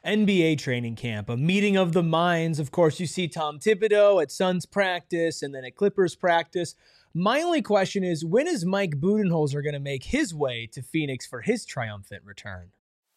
NBA training camp, a meeting of the minds. Of course, you see Tom Thibodeau at Suns practice and then at Clippers practice. My only question is, when is Mike Budenholzer going to make his way to Phoenix for his triumphant return?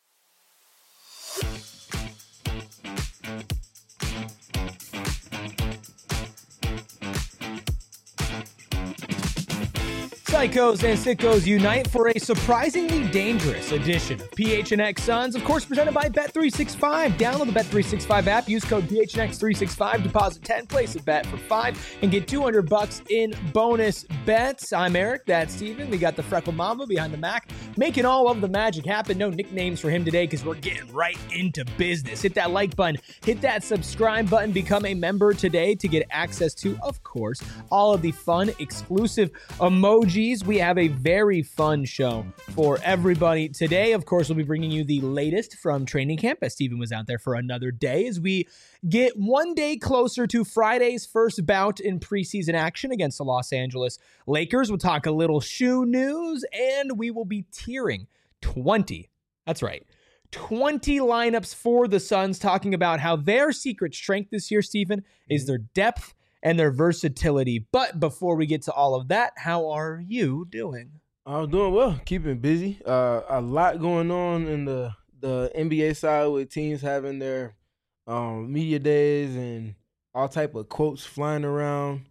Psychos and sickos unite for a surprisingly dangerous edition of PHNX Suns, of course, presented by Bet365. Download the Bet365 app, use code PHNX365, deposit 10, place a bet for 5, and get $200 in bonus bets. I'm Eric, that's Steven. We got the Freckle Mamba behind the Mac, making all of the magic happen. No nicknames for him today because we're getting right into business. Hit that like button, hit that subscribe button, become a member today to get access to, of course, all of the fun, exclusive emojis. We have a very fun show for everybody today. Of course, we'll be bringing you the latest from training camp as Steven was out there for another day as we get one day closer to Friday's first bout in preseason action against the Los Angeles Lakers. We'll talk a little shoe news and we will be tiering 20. That's right. 20 lineups for the Suns, talking about how their secret strength this year, Steven, is their depth and their versatility. But before we get to all of that, how are you doing? I'm doing well, keeping busy. A lot going on in the NBA side with teams having their media days and all type of quotes flying around.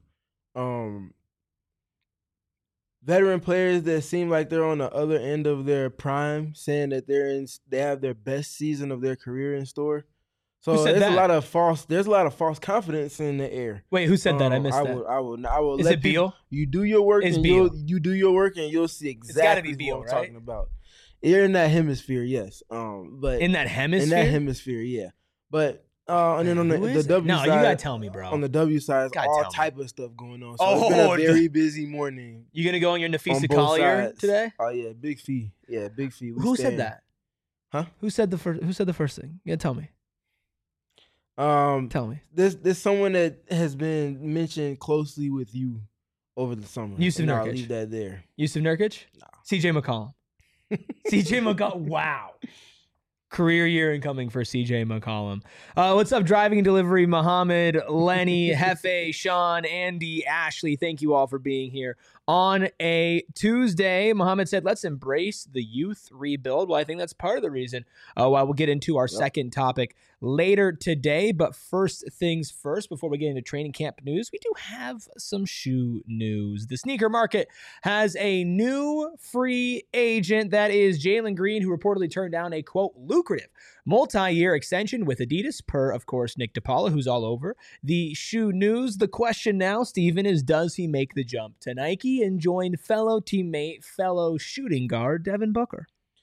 Veteran players that seem like they're on the other end of their prime, saying that they have their best season of their career in store. So there's a lot of false confidence in the air. Wait, who said that? I missed that. I will. Is it Beal? You do your work, It's and Beal. you do your work, and you'll see exactly Beal, what I'm talking about. You're in that hemisphere, yes. But in that hemisphere, yeah. But and then on the W side, no, you gotta tell me, bro. On the W side, all type of stuff going on. So it's been a very busy morning. You gonna go on your Nafisa Collier today? Oh yeah, big fee. Yeah, big fee. Who said that? Huh? Who said the first thing? You gotta tell me. Tell me. There's someone that has been mentioned closely with you over the summer. Yusuf Nurkic. I'll leave that there. Yusuf Nurkic? No. CJ McCollum. CJ McCollum. Wow. Career year incoming for CJ McCollum. What's up, Driving and Delivery? Muhammad, Lenny, Hefe, Sean, Andy, Ashley. Thank you all for being here on a Tuesday. Muhammad said, let's embrace the youth rebuild. Well, I think that's part of the reason why we'll get into our second topic later today. But first things first, before we get into training camp news, we do have some shoe news. The sneaker market has a new free agent. That is Jalen Green, who reportedly turned down a, quote, lucrative multi-year extension with Adidas, per, of course, Nick DePaula, who's all over the shoe news. The question now, Steven, is does he make the jump to Nike and join fellow teammate, fellow shooting guard, Devin Booker?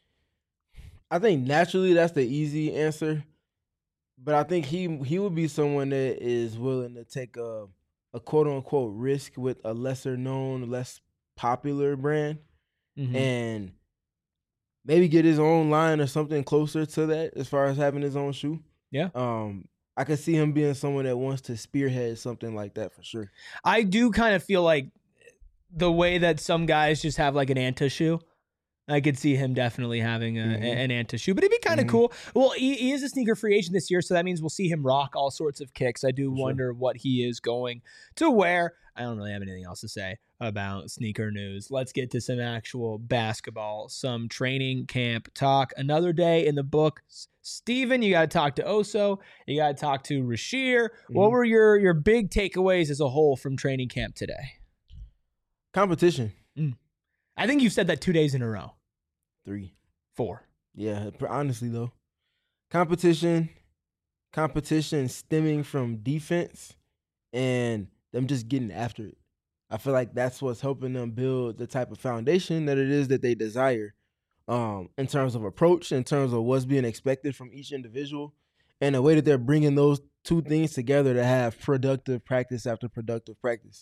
I think naturally that's the easy answer. But I think he would be someone that is willing to take a quote-unquote risk with a lesser-known, less popular brand and maybe get his own line or something closer to that as far as having his own shoe. Yeah. I could see him being someone that wants to spearhead something like that for sure. I do kind of feel like the way that some guys just have like an Anta shoe, I could see him definitely having an Anta shoe, but it'd be kind of cool. Well, he is a sneaker free agent this year, so that means we'll see him rock all sorts of kicks. I do wonder what he is going to wear. I don't really have anything else to say about sneaker news. Let's get to some actual basketball, some training camp talk. Another day in the books. Steven, you got to talk to Oso. You got to talk to Rashir. What were your big takeaways as a whole from training camp today? Competition. I think you've said that 2 days in a row. 3. 4. Yeah, honestly, though. Competition stemming from defense and them just getting after it. I feel like that's what's helping them build the type of foundation that it is that they desire in terms of approach, in terms of what's being expected from each individual, and the way that they're bringing those two things together to have productive practice after productive practice.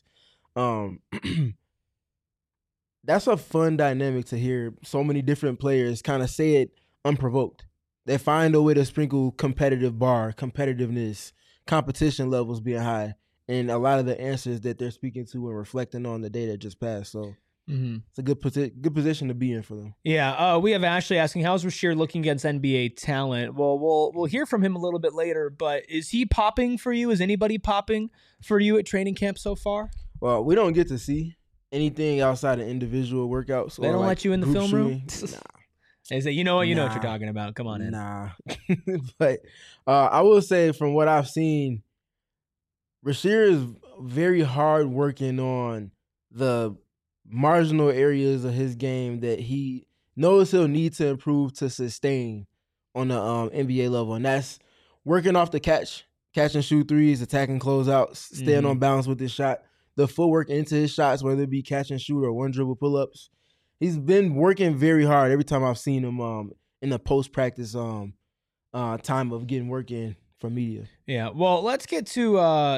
That's a fun dynamic to hear so many different players kind of say it unprovoked. They find a way to sprinkle competitiveness, competition levels being high, and a lot of the answers that they're speaking to and reflecting on the day that just passed. So It's a good position to be in for them. Yeah. We have Ashley asking, how's Rasheer looking against NBA talent? Well, we'll hear from him a little bit later, but is he popping for you? Is anybody popping for you at training camp so far? Well, we don't get to see anything outside of individual workouts. They don't let you in the film room? Nah. They say, you know what? You know what you're talking about. Come on in. Nah. But I will say from what I've seen, Rasheer is very hard working on the marginal areas of his game that he knows he'll need to improve to sustain on the NBA level. And that's working off the catch and shoot threes, attacking closeouts, staying on balance with his shot, the footwork into his shots, whether it be catch and shoot or one dribble pull-ups. He's been working very hard every time I've seen him in the post-practice time of getting work in from media. Yeah, well, let's get to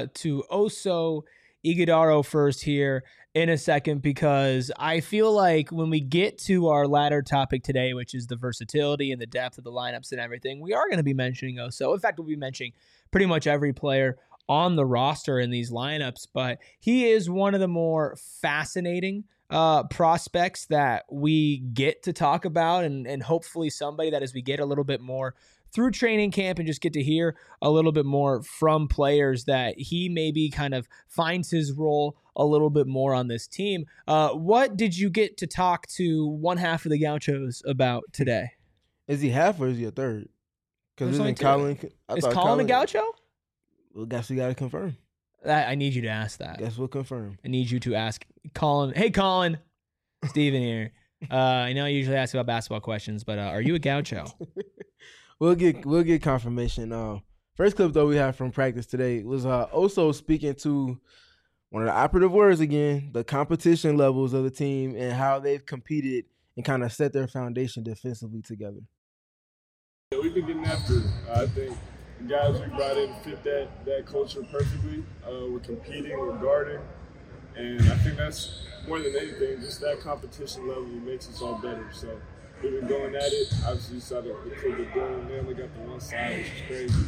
Oso Ighodaro first here in a second, because I feel like when we get to our latter topic today, which is the versatility and the depth of the lineups and everything, we are going to be mentioning Oso. In fact, we'll be mentioning pretty much every player on the roster in these lineups, but he is one of the more fascinating prospects that we get to talk about, and hopefully somebody that as we get a little bit more through training camp and just get to hear a little bit more from players, that he maybe kind of finds his role a little bit more on this team. What did you get to talk to one half of the Gauchos about today? Is he half or is he a third? Because There's isn't Colin? Is Colin a Gaucho? Well, guess we got to confirm. I need you to ask that. Guess we'll confirm. I need you to ask Colin. Hey, Colin. Steven here. I know I usually ask about basketball questions, but are you a Gaucho? We'll get confirmation. First clip though we have from practice today was Oso speaking to one of the operative words again, the competition levels of the team and how they've competed and kind of set their foundation defensively together. Yeah, we've been getting after it. I think the guys we brought in fit that culture perfectly. We're competing, we're guarding, and I think that's more than anything, just that competition level makes us all better. So we've been going at it. Obviously, you saw the clip of Dylan. They only got the one side, which is crazy.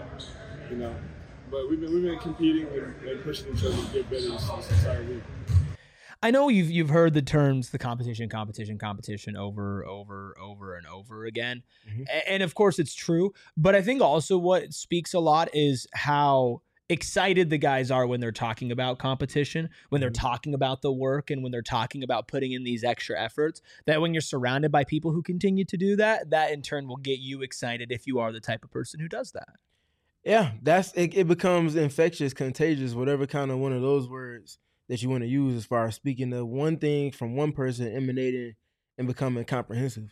But we've been competing and pushing each other to get better this entire week. I know you've heard the terms, the competition over and over again. Mm-hmm. And of course it's true, but I think also what speaks a lot is how excited the guys are when they're talking about competition, when they're talking about the work, and when they're talking about putting in these extra efforts, that when you're surrounded by people who continue to do that, that in turn will get you excited if you are the type of person who does that. Yeah, it becomes infectious, contagious, whatever kind of one of those words that you want to use as far as speaking of one thing from one person emanating and becoming comprehensive.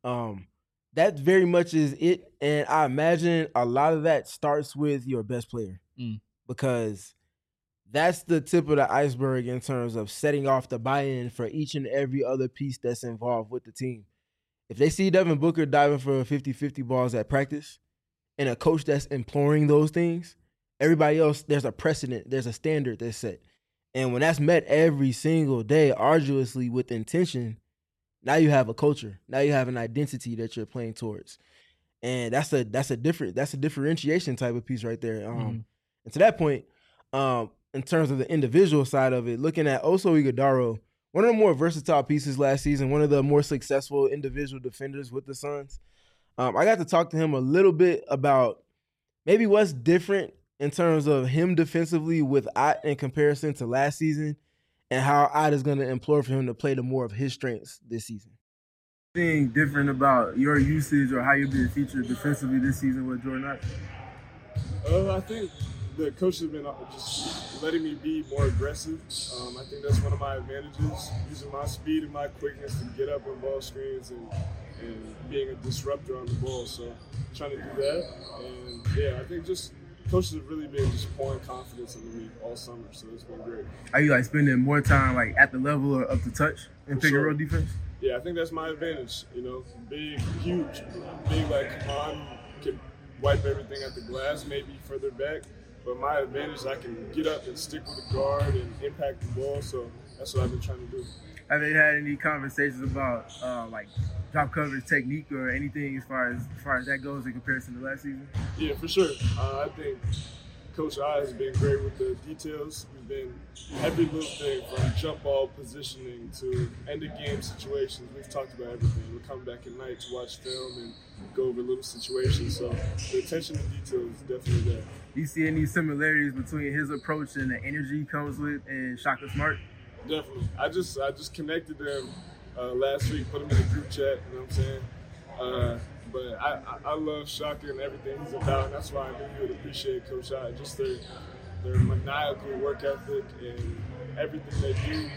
That very much is it. And I imagine a lot of that starts with your best player because that's the tip of the iceberg in terms of setting off the buy-in for each and every other piece that's involved with the team. If they see Devin Booker diving for 50-50 balls at practice and a coach that's imploring those things, everybody else, there's a precedent, there's a standard that's set. And when that's met every single day, arduously with intention, now you have a culture. Now you have an identity that you're playing towards. And that's a differentiation type of piece right there. And to that point, in terms of the individual side of it, looking at Oso Ighodaro, one of the more versatile pieces last season, one of the more successful individual defenders with the Suns. I got to talk to him a little bit about maybe what's different in terms of him defensively with Ott in comparison to last season, and how Ott is going to implore for him to play to more of his strengths this season. Anything different about your usage or how you've been featured defensively this season with Jordan Ott? I think the coach has been just letting me be more aggressive. I think that's one of my advantages, using my speed and my quickness to get up on ball screens and being a disruptor on the ball. So trying to do that. And yeah, I think just coaches have really been just pouring confidence into me all summer, so it's been great. Are you spending more time at the level or up the touch in pick and roll defense? Yeah, I think that's my advantage. Big, huge, big Kaman can wipe everything at the glass, maybe further back. But my advantage is I can get up and stick with the guard and impact the ball. So that's what I've been trying to do. Have they had any conversations about drop coverage technique or anything as far as that goes in comparison to last season? Yeah, for sure. I think Coach I has been great with the details. We've been every little thing from jump ball positioning to end of game situations. We've talked about everything. We're coming back at night to watch film and go over little situations. So the attention to detail is definitely there. Do you see any similarities between his approach and the energy he comes with and Shaka Smart? Definitely. I just connected them last week, put them in the group chat, you know what I'm saying? But I love Shaka and everything he's about, and that's why I knew he would appreciate Coach I. Just their maniacal work ethic and everything they do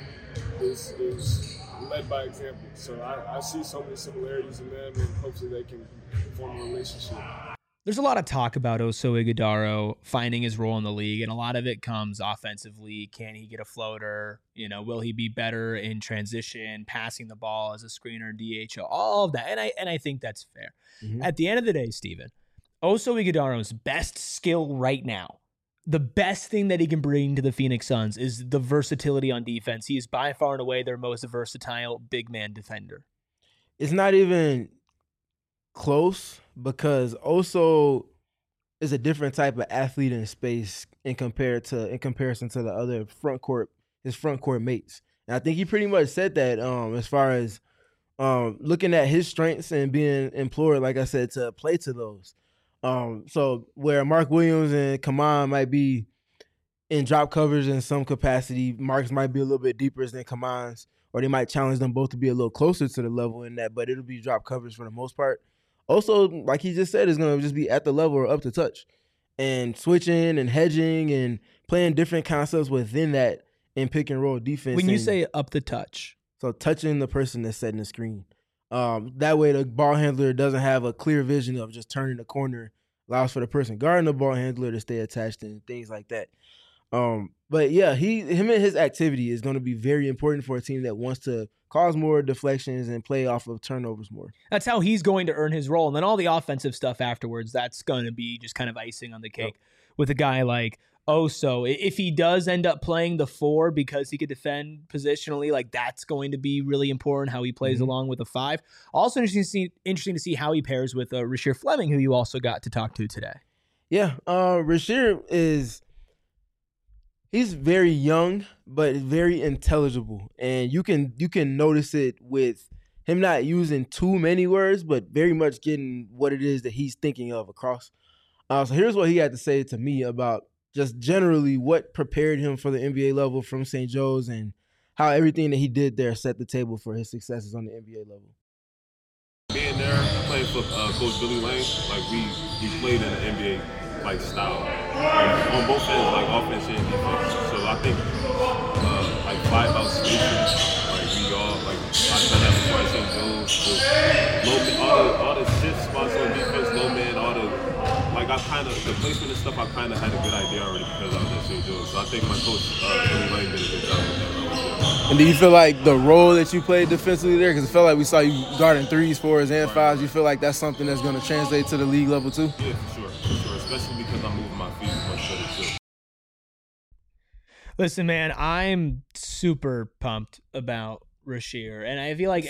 is led by example. So I see so many similarities in them, and hopefully they can form a relationship. There's a lot of talk about Oso Ighodaro finding his role in the league, and a lot of it comes offensively. Can he get a floater? Will he be better in transition, passing the ball as a screener, DHO, all of that. And I think that's fair. Mm-hmm. At the end of the day, Steven, Oso Ighodaro's best skill right now, the best thing that he can bring to the Phoenix Suns is the versatility on defense. He is by far and away their most versatile big man defender. It's not even close because Oso is a different type of athlete in space in comparison to the other his front court mates. And I think he pretty much said that as far as looking at his strengths and being implored, like I said, to play to those. So where Mark Williams and Kaman might be in drop covers in some capacity, Mark's might be a little bit deeper than Kaman's, or they might challenge them both to be a little closer to the level in that, but it'll be drop covers for the most part. Also, like he just said, is going to just be at the level or up to touch and switching and hedging and playing different concepts within that in pick and roll defense. When you say up the touch. So touching the person that's setting the screen. That way the ball handler doesn't have a clear vision of just turning the corner, allows for the person guarding the ball handler to stay attached and things like that. But yeah, him and his activity is going to be very important for a team that wants to cause more deflections and play off of turnovers more. That's how he's going to earn his role. And then all the offensive stuff afterwards, that's going to be just kind of icing on the cake with a guy like Oso. If he does end up playing the 4 because he could defend positionally, like that's going to be really important how he plays along with a 5. Also interesting to see how he pairs with Rasheer Fleming, who you also got to talk to today. Yeah, Rasheer he's very young, but very intelligible. And you can notice it with him not using too many words, but very much getting what it is that he's thinking of across. So here's what he had to say to me about just generally what prepared him for the NBA level from St. Joe's and how everything that he did there set the table for his successes on the NBA level. Being there, playing for Coach Billy Lane, like we played in the NBA style on both ends, like offense and defense. So I think 5 out stations, we all I've done that before at St. Joe's. All the shift spots on defense, low man, all the the placement and stuff. I kind of had a good idea already because I was at St. Joe's. So I think my coach Billy Lane did a good job with that. And do you feel like the role that you played defensively there, because it felt like we saw you guarding 3s, 4s, and 5s, you feel like that's something that's going to translate to the league level too? Yeah, for sure. Especially because I'm moving my feet much better too. Listen, man, I'm super pumped about Rasheer, and I feel like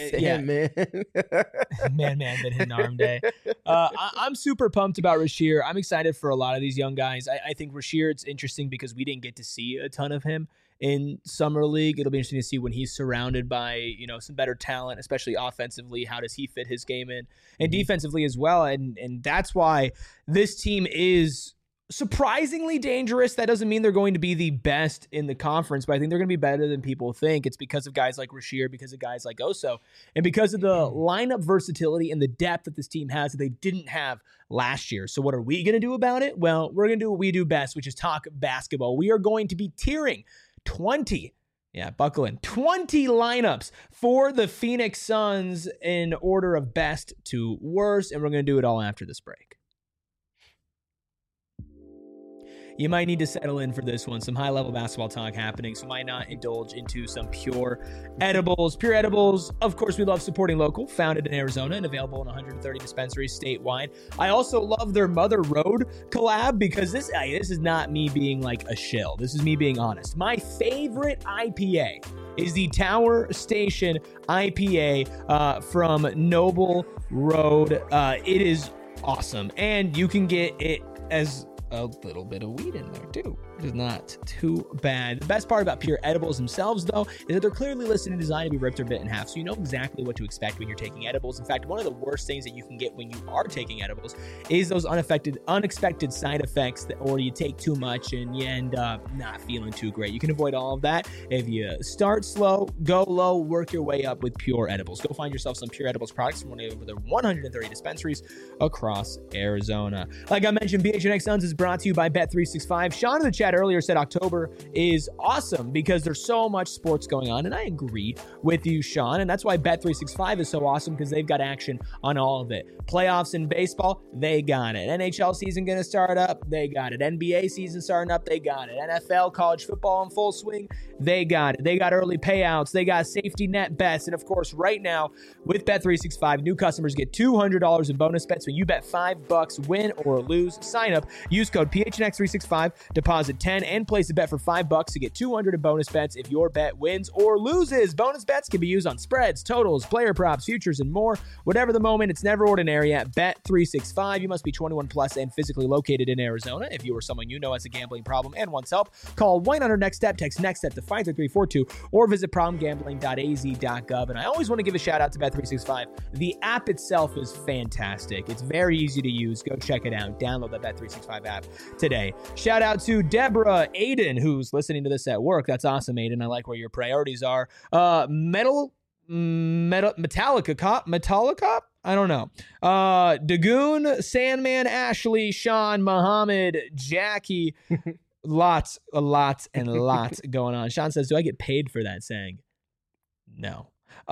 man that hit an arm day. I'm super pumped about Rasheer. I'm excited for a lot of these young guys. I think Rasheer, it's interesting because we didn't get to see a ton of him in summer league. It'll be interesting to see when he's surrounded by some better talent, especially offensively. How does he fit his game in, and defensively as well? And that's why this team is surprisingly dangerous. That doesn't mean they're going to be the best in the conference, but I think they're going to be better than people think. It's because of guys like Rasheer, because of guys like Oso, and because of the lineup versatility and the depth that this team has that they didn't have last year. So what are we going to do about it? Well, we're going to do what we do best, which is talk basketball. We are going to be tiering 20 lineups for the Phoenix Suns in order of best to worst, and we're going to do it all after this break. You might need to settle in for this one. Some high-level basketball talk happening, so why not indulge into some Pure Edibles? Pure Edibles, of course, we love supporting local, founded in Arizona and available in 130 dispensaries statewide. I also love their Mother Road collab because this is not me being like a shill. This is me being honest. My favorite IPA is the Tower Station IPA from Noble Road. It is awesome, and you can get it as a little bit of weed in there too, which is not too bad. The best part about Pure Edibles themselves, though, is that they're clearly listed and designed to be ripped or bit in half, so you know exactly what to expect when you're taking edibles. In fact, one of the worst things that you can get when you are taking edibles is those unexpected side effects, or you take too much and you end up not feeling too great. You can avoid all of that if you start slow, go low, work your way up with Pure Edibles. Go find yourself some Pure Edibles products from one of their 130 dispensaries across Arizona. Like I mentioned, PHNX Suns is brought to you by Bet365. Sean in the chat earlier said October is awesome because there's so much sports going on, and I agree with you, Sean, and that's why Bet365 is so awesome, because they've got action on all of it. Playoffs in baseball, they got it. NHL season going to start up, they got it. NBA season starting up, they got it. NFL, college football in full swing, they got it. They got early payouts, they got safety net bets, and of course, right now with Bet365, new customers get $200 in bonus bets when you bet $5, win or lose. Sign up, use code PHNX365, deposit 10, and place a bet for $5 to get $200 in bonus bets if your bet wins or loses. Bonus bets can be used on spreads, totals, player props, futures, and more. Whatever the moment, it's never ordinary at Bet365. You must be 21 plus and physically located in Arizona. If you or someone you know has a gambling problem and wants help, call 1-800-NEXT-STEP, text NEXT-STEP to 53342, or visit problemgambling.az.gov. And I always want to give a shout out to Bet365. The app itself is fantastic. It's very easy to use. Go check it out. Download the Bet365 app today. Shout out to Deborah Aiden, who's listening to this at work. That's awesome, Aiden. I like where your priorities are. Metallica Cop? I don't know. Dagoon, Sandman, Ashley, Sean, Muhammad, Jackie. lots going on. Sean says, do I get paid for that saying? No.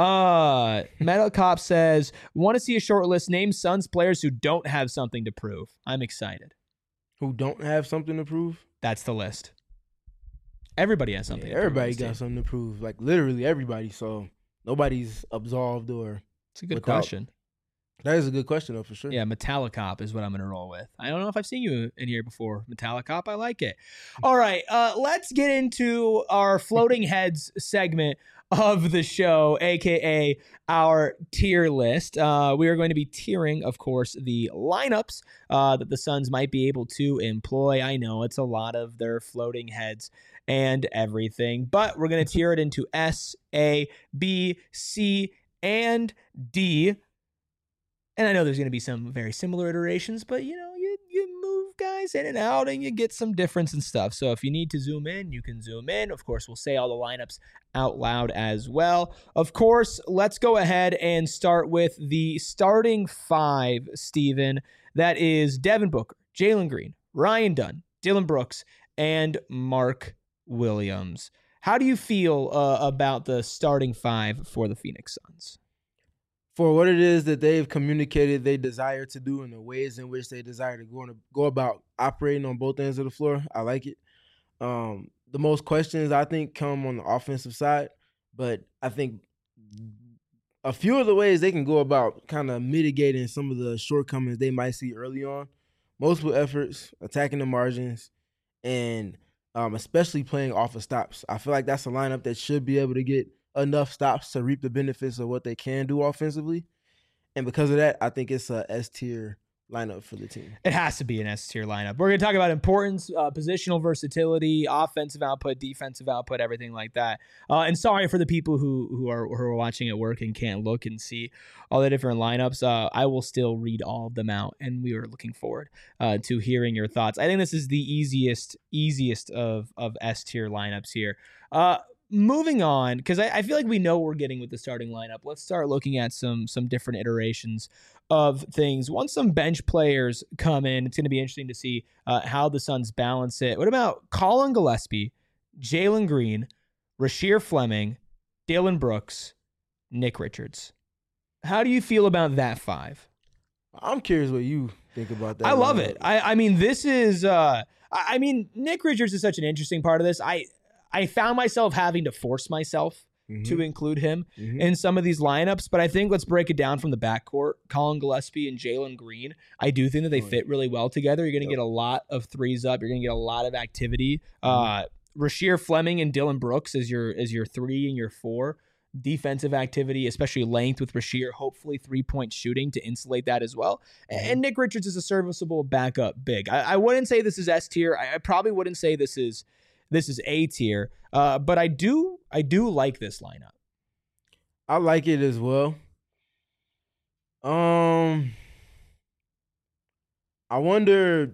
Metal Cop says, want to see a short list. Name Suns players who don't have something to prove. I'm excited. Who don't have something to prove? That's the list. Everybody has something. Everybody got something to prove. Like literally everybody. So nobody's absolved or. It's a good question. That is a good question, though, for sure. Yeah, Metallicop is what I'm going to roll with. I don't know if I've seen you in here before. Metallicop, I like it. All right, let's get into our floating heads segment of the show, a.k.a. our tier list. We are going to be tiering, of course, the lineups that the Suns might be able to employ. I know it's a lot of their floating heads and everything, but we're going to tier it into S, A, B, C, and D. And I know there's going to be some very similar iterations, but, you know, you move guys in and out and you get some difference and stuff. So if you need to zoom in, you can zoom in. Of course, we'll say all the lineups out loud as well. Of course, let's go ahead and start with the starting five, Steven. That is Devin Booker, Jalen Green, Ryan Dunn, Dillon Brooks, and Mark Williams. How do you feel about the starting five for the Phoenix Suns? For what it is that they've communicated they desire to do and the ways in which they desire to go about operating on both ends of the floor, I like it. The most questions, I think, come on the offensive side, but I think a few of the ways they can go about kind of mitigating some of the shortcomings they might see early on, multiple efforts, attacking the margins, and especially playing off of stops. I feel like that's a lineup that should be able to get enough stops to reap the benefits of what they can do offensively. And because of that, I think it's a S-tier lineup for the team. It has to be an S-tier lineup. We're going to talk about importance, positional versatility, offensive output, defensive output, everything like that. And sorry for the people who are watching at work and can't look and see all the different lineups. I will still read all of them out, and we are looking forward to hearing your thoughts. I think this is the easiest of S-tier lineups here. Moving on, because I feel like we know what we're getting with the starting lineup. Let's start looking at some different iterations of things. Once some bench players come in, it's going to be interesting to see how the Suns balance it. What about Colin Gillespie, Jalen Green, Rasheer Fleming, Dillon Brooks, Nick Richards? How do you feel about that five? I'm curious what you think about that. I love it. I mean, this is Nick Richards is such an interesting part of this. I found myself having to force myself to include him in some of these lineups, but I think let's break it down from the backcourt. Colin Gillespie and Jalen Green, I do think that they fit really well together. You're going to get a lot of threes up. You're going to get a lot of activity. Rasheer Fleming and Dillon Brooks as your 3 and your 4. defensive activity, especially length with Rasheer, hopefully 3-point shooting to insulate that as well. And Nick Richards is a serviceable backup big. I wouldn't say this is S tier. I probably wouldn't say this is A tier. But I do like this lineup. I like it as well. I wonder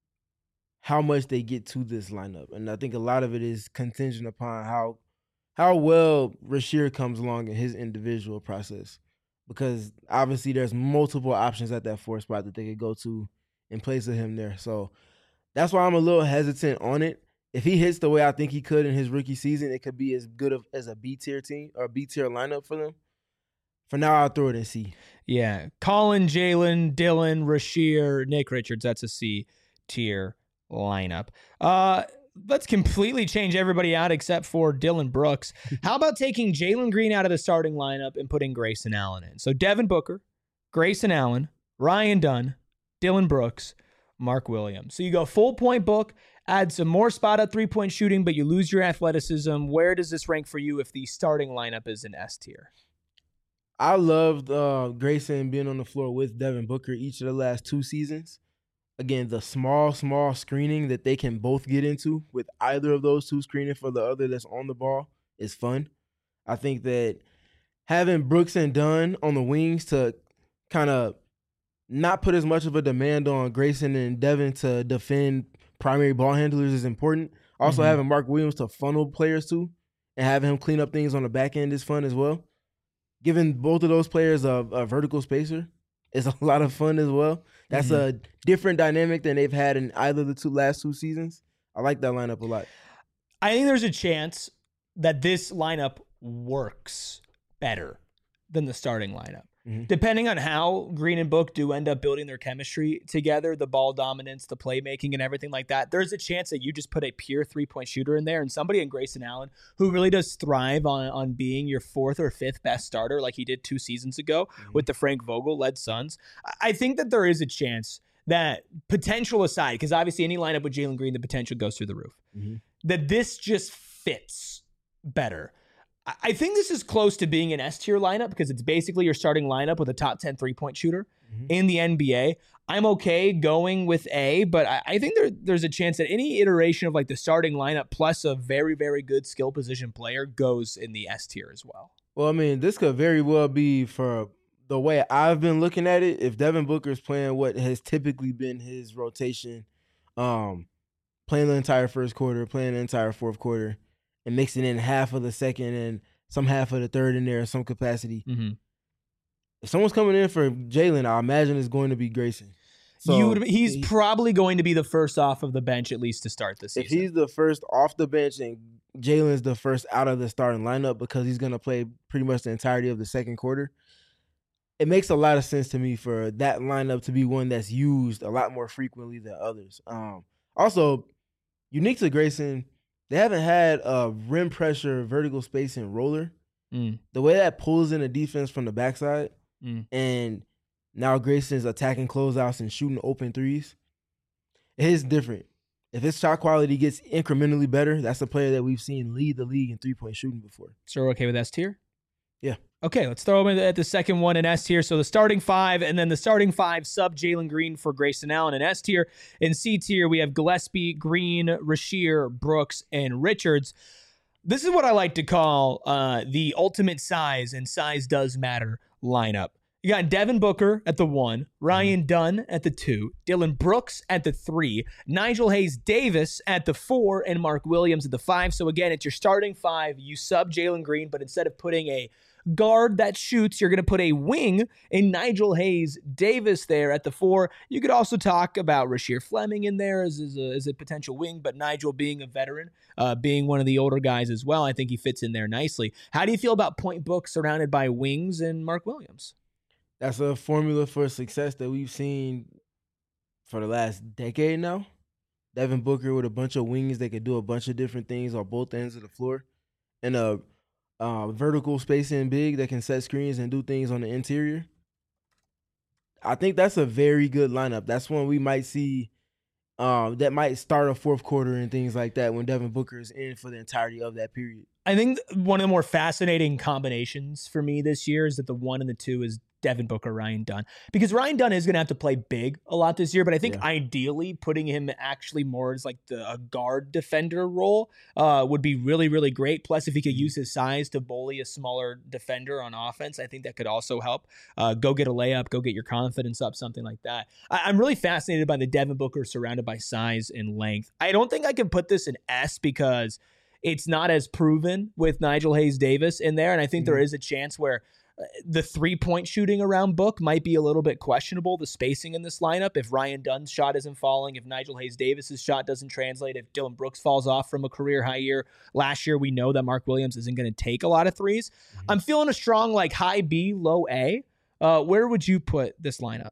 how much they get to this lineup. And I think a lot of it is contingent upon how well Rasheer comes along in his individual process. Because obviously there's multiple options at that 4 spot that they could go to in place of him there. So that's why I'm a little hesitant on it. If he hits the way I think he could in his rookie season, it could be as good as a B-tier team or B-tier lineup for them. For now, I'll throw it in C. Yeah. Colin, Jalen, Dylan, Rasheer, Nick Richards. That's a C tier lineup. Let's completely change everybody out except for Dylan Brooks. How about taking Jalen Green out of the starting lineup and putting Grayson Allen in? So Devin Booker, Grayson Allen, Ryan Dunn, Dylan Brooks, Mark Williams. So you go full point book, add some more spot up 3-point shooting, but you lose your athleticism. Where does this rank for you if the starting lineup is an S tier? I loved Grayson being on the floor with Devin Booker each of the last 2 seasons. Again, the small screening that they can both get into with either of those 2 screening for the other that's on the ball is fun. I think that having Brooks and Dunn on the wings to kind of not put as much of a demand on Grayson and Devin to defend primary ball handlers is important. Also, having Mark Williams to funnel players to and having him clean up things on the back end is fun as well. Giving both of those players a vertical spacer is a lot of fun as well. That's a different dynamic than they've had in either of the last 2 seasons. I like that lineup a lot. I think there's a chance that this lineup works better than the starting lineup. Depending on how Green and Book do end up building their chemistry together, the ball dominance, the playmaking, and everything like that, there's a chance that you just put a pure 3-point shooter in there and somebody in Grayson Allen who really does thrive on being your 4th or 5th best starter like he did 2 seasons ago with the Frank Vogel-led Suns. I think that there is a chance that, potential aside, because obviously any lineup with Jalen Green, the potential goes through the roof, that this just fits better. I think this is close to being an S-tier lineup because it's basically your starting lineup with a top 10 3-point shooter in the NBA. I'm okay going with A, but I think there's a chance that any iteration of like the starting lineup plus a very, very good skill position player goes in the S-tier as well. Well, I mean, this could very well be, for the way I've been looking at it, if Devin Booker is playing what has typically been his rotation, playing the entire first quarter, playing the entire fourth quarter, and mixing in half of the second and some half of the third in there in some capacity. If someone's coming in for Jalen, I imagine it's going to be Grayson. So he's probably going to be the first off of the bench at least to start the season. If he's the first off the bench and Jalen's the first out of the starting lineup because he's going to play pretty much the entirety of the second quarter, it makes a lot of sense to me for that lineup to be one that's used a lot more frequently than others. Also, unique to Grayson, they haven't had a rim pressure vertical spacing roller. The way that pulls in the defense from the backside, and now Grayson's attacking closeouts and shooting open threes, it is different. If his shot quality gets incrementally better, that's a player that we've seen lead the league in 3-point shooting before. So we're okay with S tier? Yeah. Okay, let's throw him at the second one in S tier. So the starting 5, and then the starting 5 sub Jalen Green for Grayson Allen in S tier. In C tier, we have Gillespie, Green, Rasheer, Brooks, and Richards. This is what I like to call the ultimate size, and size does matter, lineup. You got Devin Booker at the 1, Ryan Dunn at the 2, Dylan Brooks at the 3, Nigel Hayes-Davis at the 4, and Mark Williams at the 5. So again, it's your starting 5. You sub Jalen Green, but instead of putting a guard that shoots, you're going to put a wing in Nigel Hayes-Davis there at the 4. You could also talk about Rasheer Fleming in there as a potential wing, but Nigel being a veteran, being one of the older guys as well, I think he fits in there nicely. How do you feel about point book surrounded by wings and Mark Williams? That's a formula for success that we've seen for the last decade now. Devin Booker with a bunch of wings that could do a bunch of different things on both ends of the floor, and a vertical spacing big that can set screens and do things on the interior. I think that's a very good lineup. That's one we might see that might start a fourth quarter and things like that when Devin Booker is in for the entirety of that period. I think one of the more fascinating combinations for me this year is that the 1 and the 2 is Devin Booker, Ryan Dunn. Because Ryan Dunn is going to have to play big a lot this year, but I think ideally putting him actually more as like a guard defender role would be really, really great. Plus, if he could use his size to bully a smaller defender on offense, I think that could also help. Go get a layup, go get your confidence up, something like that. I'm really fascinated by the Devin Booker surrounded by size and length. I don't think I can put this in S because it's not as proven with Nigel Hayes-Davis in there, and I think there is a chance where the 3-point shooting around Book might be a little bit questionable, the spacing in this lineup. If Ryan Dunn's shot isn't falling, if Nigel Hayes-Davis's shot doesn't translate, if Dylan Brooks falls off from a career high year. Last year, we know that Mark Williams isn't going to take a lot of threes. I'm feeling a strong like high B, low A. Where would you put this lineup?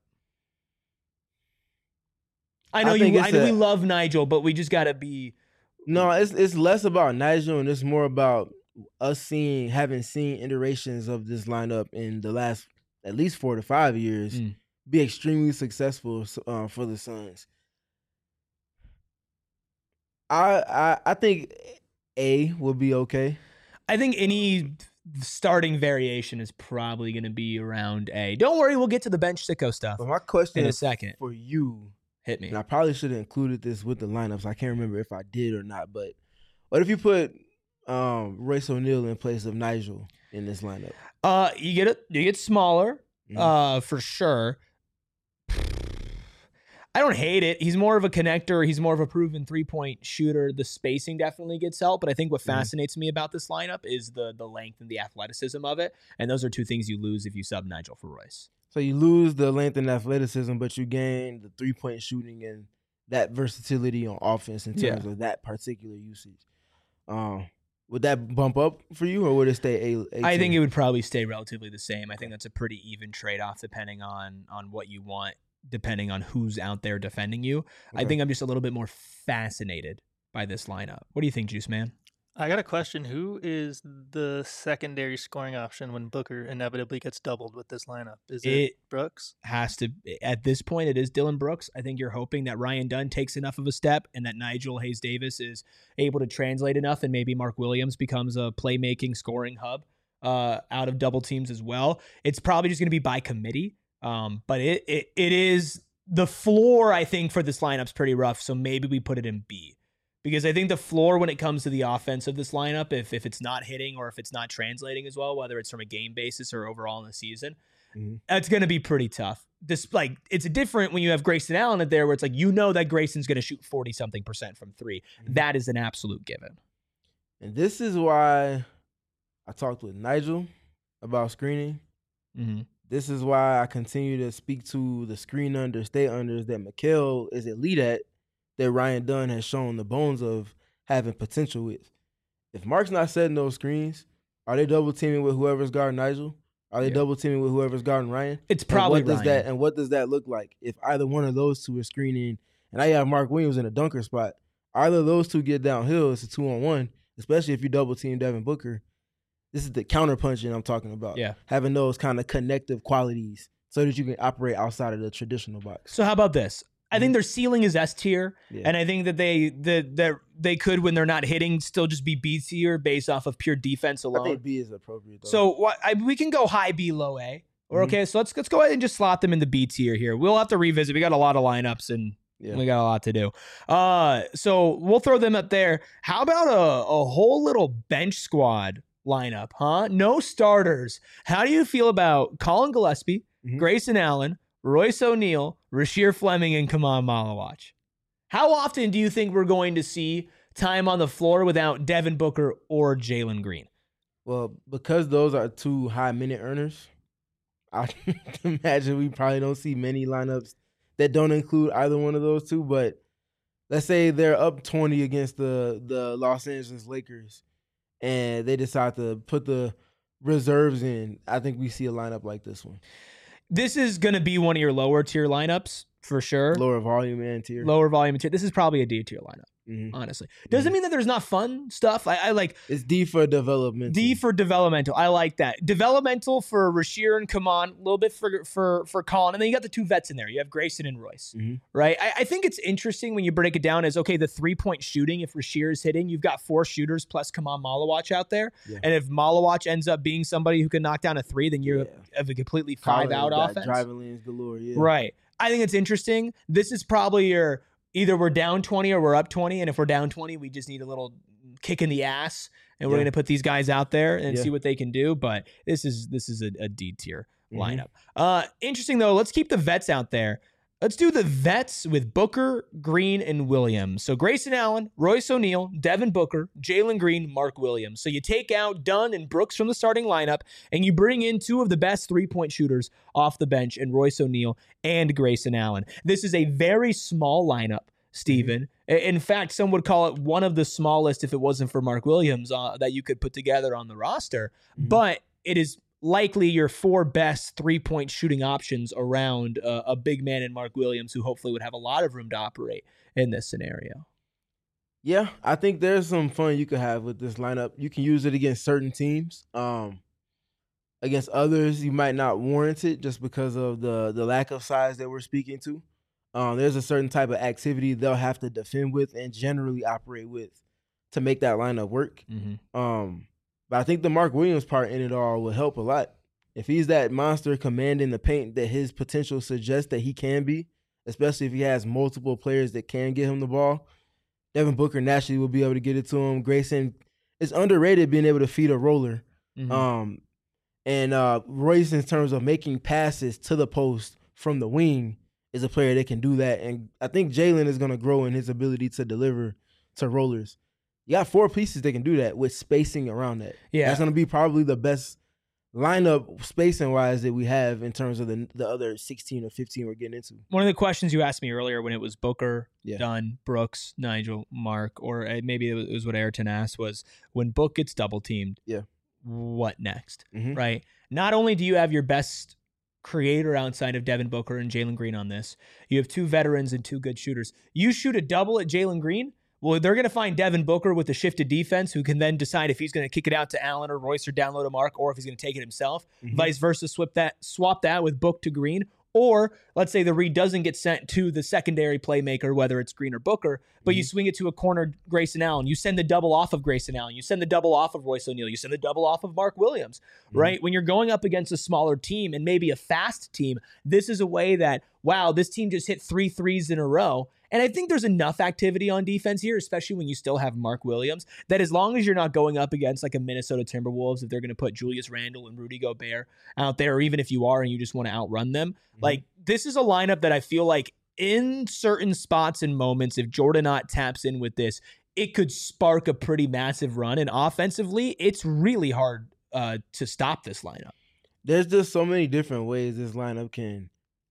I know we love Nigel, but we just got to be... No, it's less about Nigel and it's more about us having seen iterations of this lineup in the last at least 4 to 5 years be extremely successful for the Suns. I think A will be okay. I think any starting variation is probably going to be around A. Don't worry, we'll get to the bench sicko stuff. But my question in a second for you, hit me. And I probably should have included this with the lineups. I can't remember if I did or not. But what if you put Royce O'Neal in place of Nigel in this lineup? You get smaller, for sure. I don't hate it. He's more of a connector. He's more of a proven 3-point shooter. The spacing definitely gets help, but I think what fascinates me about this lineup is the length and the athleticism of it, and those are two things you lose if you sub Nigel for Royce. So you lose the length and athleticism, but you gain the 3-point shooting and that versatility on offense in terms of that particular usage. Would that bump up for you, or would it stay A? I think it would probably stay relatively the same. I think that's a pretty even trade-off depending on what you want, depending on who's out there defending you. Okay. I think I'm just a little bit more fascinated by this lineup. What do you think, Juice Man? I got a question. Who is the secondary scoring option when Booker inevitably gets doubled with this lineup? Is it Brooks? Has to. At this point, it is Dylan Brooks. I think you're hoping that Ryan Dunn takes enough of a step and that Nigel Hayes-Davis is able to translate enough, and maybe Mark Williams becomes a playmaking scoring hub out of double teams as well. It's probably just going to be by committee, but it is the floor, I think, for this lineup's pretty rough, so maybe we put it in B. Because I think the floor when it comes to the offense of this lineup, if it's not hitting or if it's not translating as well, whether it's from a game basis or overall in the season, that's going to be pretty tough. It's different when you have Grayson Allen in there where it's like, you know that Grayson's going to shoot 40-something% from three. That is an absolute given. And this is why I talked with Nigel about screening. This is why I continue to speak to the screen under, stay unders that Mikal is elite at, that Ryan Dunn has shown the bones of having potential with. If Mark's not setting those screens, are they double teaming with whoever's guarding Nigel? Are they double teaming with whoever's guarding Ryan? It's probably Ryan. And what does that look like? If either one of those two are screening, and now you have Mark Williams in a dunker spot, either of those two get downhill, it's a 2-on-1, especially if you double team Devin Booker. This is the counter punching I'm talking about. Yeah. Having those kind of connective qualities so that you can operate outside of the traditional box. So how about this? I think their ceiling is S tier, and I think that they could, when they're not hitting, still just be B tier based off of pure defense alone. I think B is appropriate, though. So we can go high B, low A. Okay, so let's go ahead and just slot them in the B tier here. We'll have to revisit. We got a lot of lineups, and we got a lot to do. So we'll throw them up there. How about a whole little bench squad lineup, huh? No starters. How do you feel about Colin Gillespie, Grayson Allen, Royce O'Neal, Rasheer Fleming, and Kaman Malawach? How often do you think we're going to see time on the floor without Devin Booker or Jalen Green? Well, because those are two high minute earners, I imagine we probably don't see many lineups that don't include either one of those two. But let's say they're up 20 against the Los Angeles Lakers and they decide to put the reserves in. I think we see a lineup like this one. This is going to be one of your lower tier lineups for sure. Lower volume and tier. Lower volume and tier. This is probably a D tier lineup. honestly. Doesn't mean that there's not fun stuff. I like it's D for developmental. D for developmental. I like that. Developmental for Rasheer and Kaman, a little bit for Colin. And then you got the two vets in there. You have Grayson and Royce, right? I think it's interesting when you break it down as, okay, the 3-point shooting, if Rasheer is hitting, you've got 4 shooters plus Kaman Malawach out there. Yeah. And if Malawach ends up being somebody who can knock down a 3, then you have a completely 5-out offense. Driving lanes galore, Right. I think it's interesting. This is probably your... Either we're down 20 or we're up 20. And if we're down 20, we just need a little kick in the ass. And we're going to put these guys out there and see what they can do. But this is a D tier lineup. Interesting, though. Let's keep the vets out there. Let's do the vets with Booker, Green, and Williams. So Grayson Allen, Royce O'Neal, Devin Booker, Jalen Green, Mark Williams. So you take out Dunn and Brooks from the starting lineup, and you bring in 2 of the best 3-point shooters off the bench in Royce O'Neal and Grayson Allen. This is a very small lineup, Steven. In fact, some would call it one of the smallest if it wasn't for Mark Williams that you could put together on the roster. But it is likely your 4 best 3-point shooting options around a big man in Mark Williams, who hopefully would have a lot of room to operate in this scenario. Yeah, I think there's some fun you could have with this lineup. You can use it against certain teams. Against others, you might not warrant it just because of the lack of size that we're speaking to. There's a certain type of activity they'll have to defend with and generally operate with to make that lineup work. But I think the Mark Williams part in it all will help a lot. If he's that monster commanding the paint that his potential suggests that he can be, especially if he has multiple players that can get him the ball, Devin Booker naturally will be able to get it to him. Grayson is underrated being able to feed a roller. And Royce, in terms of making passes to the post from the wing, is a player that can do that. And I think Jalen is going to grow in his ability to deliver to rollers. You got 4 pieces that can do that with spacing around that. Yeah. That's going to be probably the best lineup spacing-wise that we have in terms of the other 16 or 15 we're getting into. One of the questions you asked me earlier when it was Booker, Dunn, Brooks, Nigel, Mark, or maybe it was what Ayrton asked, was when Book gets double-teamed, what next, right? Not only do you have your best creator outside of Devin Booker and Jalen Green on this, you have 2 veterans and 2 good shooters. You shoot a double at Jalen Green, well, they're going to find Devin Booker with a shifted defense who can then decide if he's going to kick it out to Allen or Royce or download a Mark, or if he's going to take it himself. Vice versa, swap that with Book to Green. Or let's say the read doesn't get sent to the secondary playmaker, whether it's Green or Booker, but you swing it to a corner Grayson Allen. You send the double off of Grayson Allen. You send the double off of Royce O'Neal. You send the double off of Mark Williams, right? When you're going up against a smaller team and maybe a fast team, this is a way that, wow, this team just hit 3 threes in a row. And I think there's enough activity on defense here, especially when you still have Mark Williams, that as long as you're not going up against like a Minnesota Timberwolves, if they're going to put Julius Randle and Rudy Gobert out there, or even if you are and you just want to outrun them, like this is a lineup that I feel like in certain spots and moments, if Jordan Ott taps in with this, it could spark a pretty massive run. And offensively, it's really hard to stop this lineup. There's just so many different ways this lineup can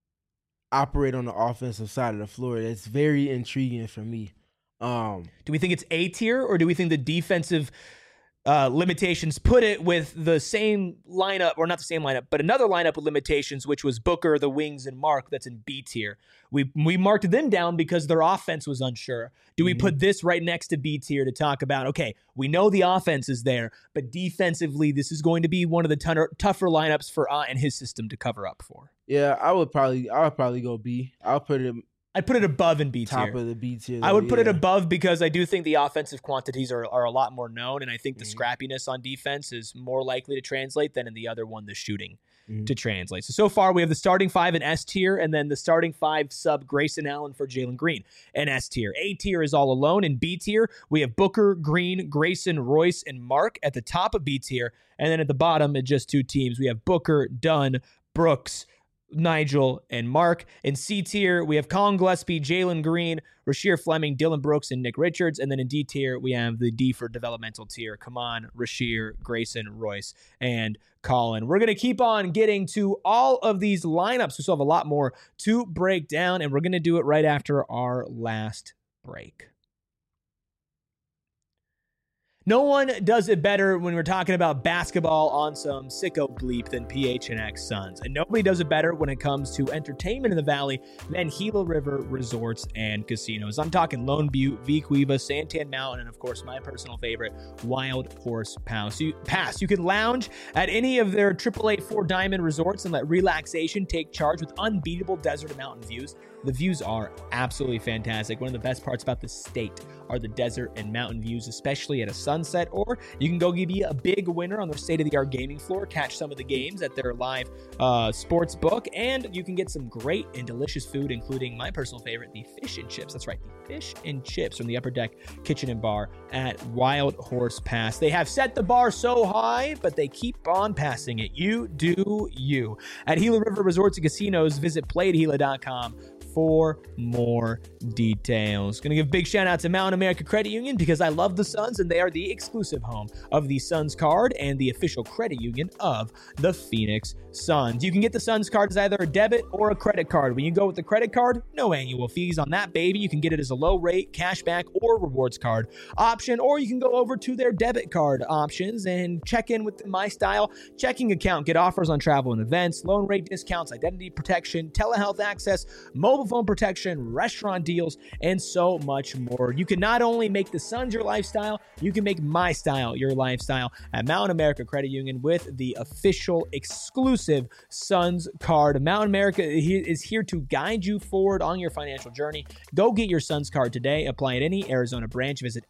operate on the offensive side of the floor. It's very intriguing for me. Do we think it's A tier, or do we think the defensive limitations put it with the same lineup, or not the same lineup, but another lineup with limitations, which was Booker, the wings, and Mark, that's in B tier? We marked them down because their offense was unsure. Do we put this right next to B tier to talk about, okay, we know the offense is there, but defensively, this is going to be one of the tougher lineups for Ott and his system to cover up for? Yeah, I would probably go B. I'd put it above in B tier. Top of the B tier. I would put it above because I do think the offensive quantities are a lot more known, and I think the scrappiness on defense is more likely to translate than in the other one, the shooting, to translate. So far, we have the starting 5 in S tier, and then the starting 5 sub Grayson Allen for Jalen Green in S tier. A tier is all alone. In B tier, we have Booker, Green, Grayson, Royce, and Mark at the top of B tier, and then at the bottom, at just 2 teams, we have Booker, Dunn, Brooks, Nigel, and Mark. In C tier, we have Colin Gillespie, Jalen Green, Rasheer Fleming, Dylan Brooks, and Nick Richards. And then in D tier, we have the D for developmental tier. Kaman, Rasheer, Grayson, Royce, and Colin. We're going to keep on getting to all of these lineups. We still have a lot more to break down, and we're going to do it right after our last break. No one does it better when we're talking about basketball on some sicko bleep than PHNX Suns. And nobody does it better when it comes to entertainment in the Valley than Gila River Resorts and Casinos. I'm talking Lone Butte, Vequiva, Santan Mountain, and of course, my personal favorite, Wild Horse Pass. You can lounge at any of their AAA 4-diamond resorts and let relaxation take charge with unbeatable desert and mountain views. The views are absolutely fantastic. One of the best parts about the state are the desert and mountain views, especially at a sunset, or you can go be a big winner on their state-of-the-art gaming floor, catch some of the games at their live sports book, and you can get some great and delicious food, including my personal favorite, the fish and chips. That's right, the fish and chips from the Upper Deck Kitchen and Bar at Wild Horse Pass. They have set the bar so high, but they keep on passing it. You do you. At Gila River Resorts and Casinos, visit playatgila.com for more details. Going to give a big shout out to Mountain America Credit Union because I love the Suns and they are the exclusive home of the Suns card and the official credit union of the Phoenix Suns. You can get the Suns card as either a debit or a credit card. When you go with the credit card, no annual fees on that baby. You can get it as a low rate, cashback, or rewards card option, or you can go over to their debit card options and check in with the My Style checking account. Get offers on travel and events, loan rate discounts, identity protection, telehealth access, mobile phone protection, restaurant deals, and so much more. You can not only make the Suns your lifestyle, you can make My Style your lifestyle at Mountain America Credit Union with the official exclusive Suns card. Mountain America is here to guide you forward on your financial journey. Go get your Suns card today. Apply at any Arizona branch. Visit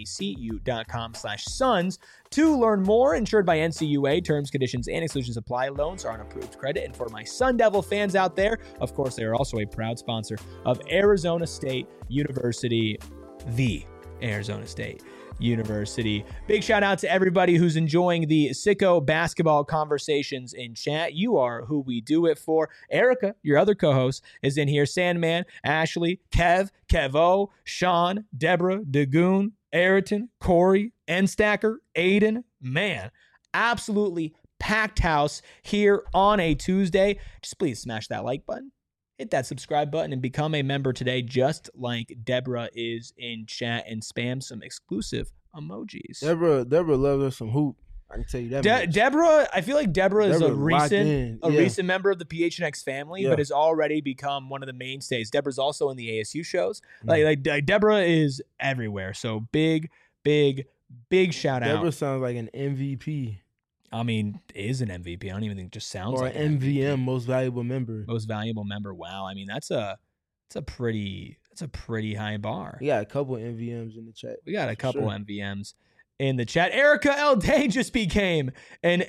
macu.com/Suns to learn more. Insured by NCUA. Terms, conditions, and exclusions apply. Loans are on approved credit. And for my Sun Devil fans out there, of course, they are also a proud sponsor of Arizona State University, the Arizona State University. Big shout out to everybody who's enjoying the Sicko basketball conversations in chat. You are who we do it for. Erica, your other co-host, is in here. Sandman, Ashley, Kevo, Sean, Deborah, Dagoon, Ayrton, Corey, Enstacker, Aiden. Man, absolutely packed house here on a Tuesday. Just please smash that like button. Hit that subscribe button and become a member today, just like Deborah is in chat, and spam some exclusive emojis. Deborah loves us some hoop. I can tell you that. Deborah, I feel like Deborah is a recent member of the PHNX family, but has already become one of the mainstays. Deborah's also in the ASU shows. Like Deborah is everywhere. So big shout out. Deborah sounds like an MVP. I mean, is an MVP. I don't even think it just sounds like an MVM, most valuable member. Most valuable member. Wow. I mean, that's a pretty high bar. We got a couple MVMs in the chat. We got a couple MVMs in the chat. Erica L. Day just became an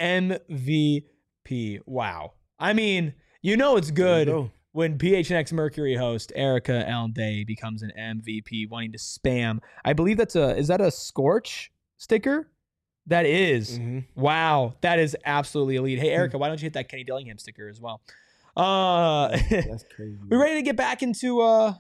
MVP. Wow. I mean, you know it's good when PHNX Mercury host Erica L. Day becomes an MVP, wanting to spam. I believe is that a Scorch sticker? That is. Mm-hmm. Wow. That is absolutely elite. Hey, Erica, why don't you hit that Kenny Dillingham sticker as well? That's crazy. We're ready to get back into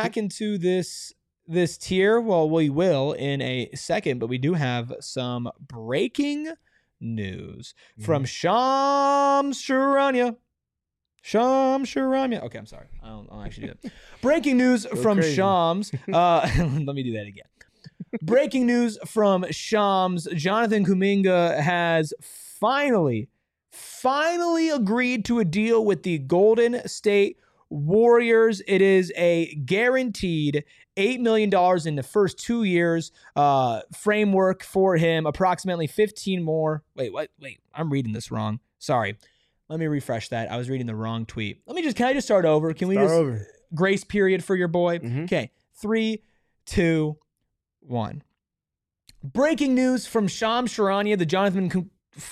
this tier. Well, we will in a second, but we do have some breaking news from Shams Charania. Okay, I'm sorry. I'll actually do that. Breaking news from Shams. Let me do that again. Breaking news from Shams. Jonathan Kuminga has finally agreed to a deal with the Golden State Warriors. It is a guaranteed $8 million in the first 2 years framework for him, approximately 15 more. Wait, I'm reading this wrong. Sorry. Let me refresh that. I was reading the wrong tweet. Can I just start over? Grace period for your boy? Mm-hmm. Okay. 3, 2, 1. Breaking news from Shams Charania, the Jonathan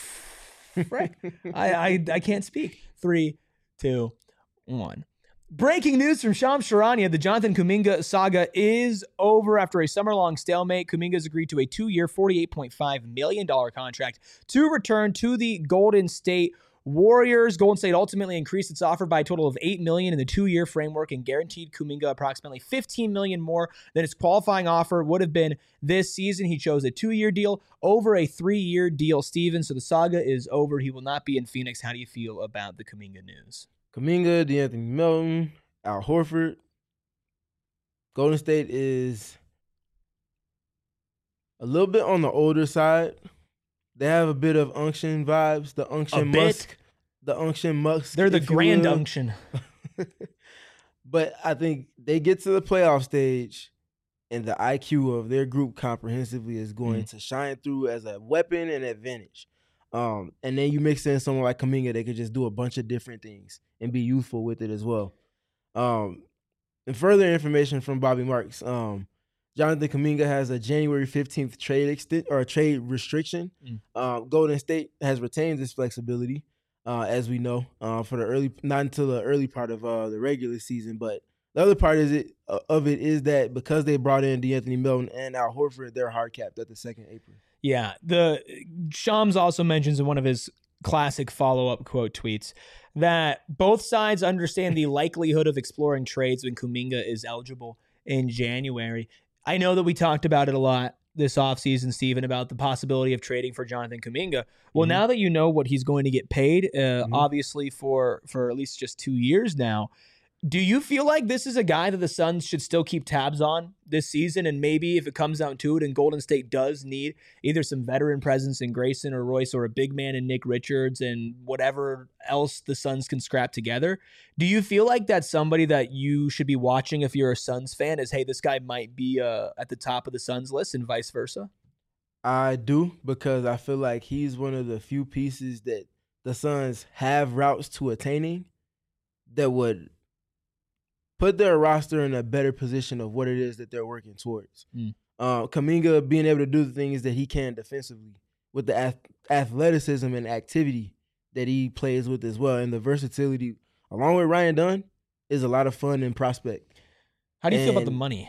I can't speak. 3, 2, 1. Breaking news from Shams Charania, the Jonathan Kuminga saga is over after a summer-long stalemate. Kuminga has agreed to a 2-year, $48.5 million contract to return to the Golden State Warriors. Golden State ultimately increased its offer by a total of $8 million in the 2-year framework and guaranteed Kuminga approximately $15 million more than his qualifying offer would have been this season. He chose a 2-year deal over a 3-year deal, Steven. So the saga is over. He will not be in Phoenix. How do you feel about the Kuminga news? Kuminga, DeAnthony Melton, Al Horford. Golden State is A little bit on the older side. They have a bit of unction vibes. The unction musk. The unction musk. They're the grand unction. But I think they get to the playoff stage, and the IQ of their group comprehensively is going to shine through as a weapon and advantage. And then you mix in someone like Kuminga, they could just do a bunch of different things and be youthful with it as well. And further information from Bobby Marks, Jonathan Kuminga has a January 15th trade restriction. Golden State has retained this flexibility, as we know, for not until the early part of the regular season. But the other part of it is that because they brought in DeAnthony Melton and Al Horford, they're hard capped at the second apron. Yeah, Shams also mentions in one of his classic follow-up quote tweets that both sides understand the likelihood of exploring trades when Kuminga is eligible in January. I know that we talked about it a lot this offseason, Steven, about the possibility of trading for Jonathan Kuminga. Well, now that you know what he's going to get paid, obviously for at least just 2 years now, do you feel like this is a guy that the Suns should still keep tabs on this season? And maybe if it comes down to it and Golden State does need either some veteran presence in Grayson or Royce or a big man in Nick Richards and whatever else the Suns can scrap together, do you feel like that's somebody that you should be watching if you're a Suns fan is, hey, this guy might be at the top of the Suns list and vice versa? I do, because I feel like he's one of the few pieces that the Suns have routes to attaining that would put their roster in a better position of what it is that they're working towards. Kuminga being able to do the things that he can defensively with the athleticism and activity that he plays with as well, and the versatility, along with Ryan Dunn, is a lot of fun and prospect. How do you feel about the money?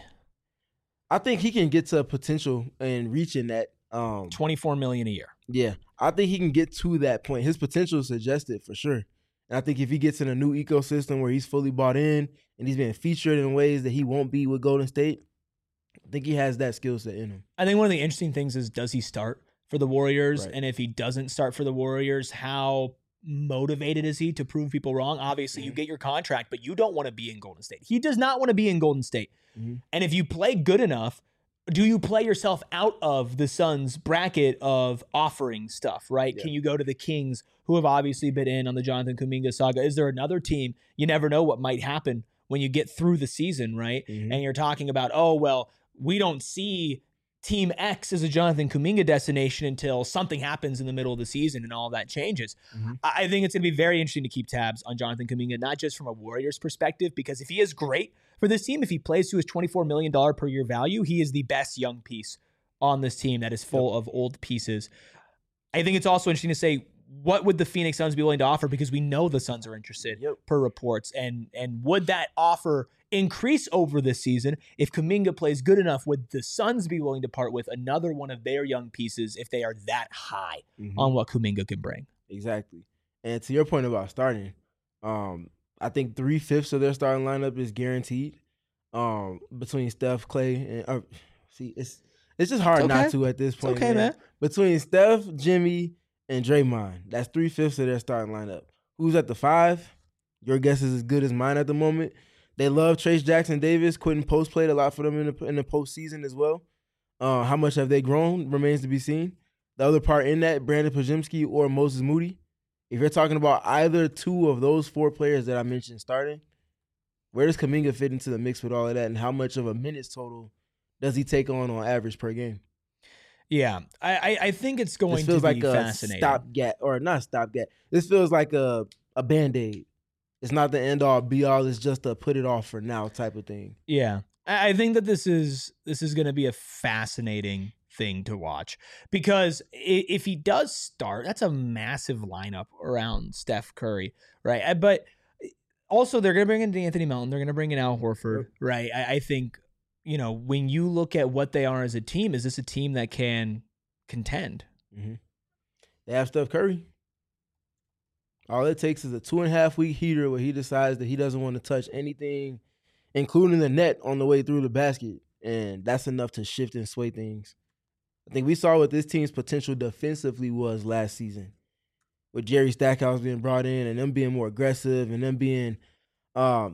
I think he can get to a potential and reaching that. $24 million a year. Yeah, I think he can get to that point. His potential is suggested for sure. And I think if he gets in a new ecosystem where he's fully bought in and he's being featured in ways that he won't be with Golden State, I think he has that skill set in him. I think one of the interesting things is, does he start for the Warriors? Right. And if he doesn't start for the Warriors, how motivated is he to prove people wrong? Obviously, you get your contract, but you don't want to be in Golden State. He does not want to be in Golden State. And if you play good enough, do you play yourself out of the Suns' bracket of offering stuff, right? Yeah. Can you go to the Kings, who have obviously been in on the Jonathan Kuminga saga? Is there another team? You never know what might happen when you get through the season, right? And you're talking about, oh, well, we don't see Team X as a Jonathan Kuminga destination until something happens in the middle of the season and all that changes. I think it's going to be very interesting to keep tabs on Jonathan Kuminga, not just from a Warriors perspective, because if he is great for this team, if he plays to his $24 million per year value, he is the best young piece on this team that is full of old pieces. I think it's also interesting to say, what would the Phoenix Suns be willing to offer? Because we know the Suns are interested per reports. And would that offer increase over this season? If Kuminga plays good enough, would the Suns be willing to part with another one of their young pieces if they are that high on what Kuminga can bring? Exactly. And to your point about starting, I think 3/5 of their starting lineup is guaranteed between Steph, Clay, and it's just hard not to at this point. It's okay, man. Between Steph, Jimmy, and Draymond, that's 3/5 of their starting lineup. Who's at the 5? Your guess is as good as mine at the moment. They love Trace Jackson Davis. Quentin Post played a lot for them in the postseason as well. How much have they grown remains to be seen. The other part in that, Brandon Podziemski or Moses Moody. If you're talking about either two of those 4 players that I mentioned starting, where does Kuminga fit into the mix with all of that, and how much of a minutes total does he take on average per game? Yeah, I think it's going to be fascinating. This feels like a stopgap, or not stopgap. This feels like a Band-Aid. It's not the end-all, be-all. It's just a put-it-off for now type of thing. Yeah, I think that this is going to be a fascinating thing to watch, because if he does start, that's a massive lineup around Steph Curry, right? But also, they're going to bring in Anthony Melton. They're going to bring in Al Horford, right? I think, you know, when you look at what they are as a team, is this a team that can contend? They have Steph Curry. All it takes is a 2.5-week heater where he decides that he doesn't want to touch anything, including the net on the way through the basket. And that's enough to shift and sway things. I think we saw what this team's potential defensively was last season, with Jerry Stackhouse being brought in and them being more aggressive and them being a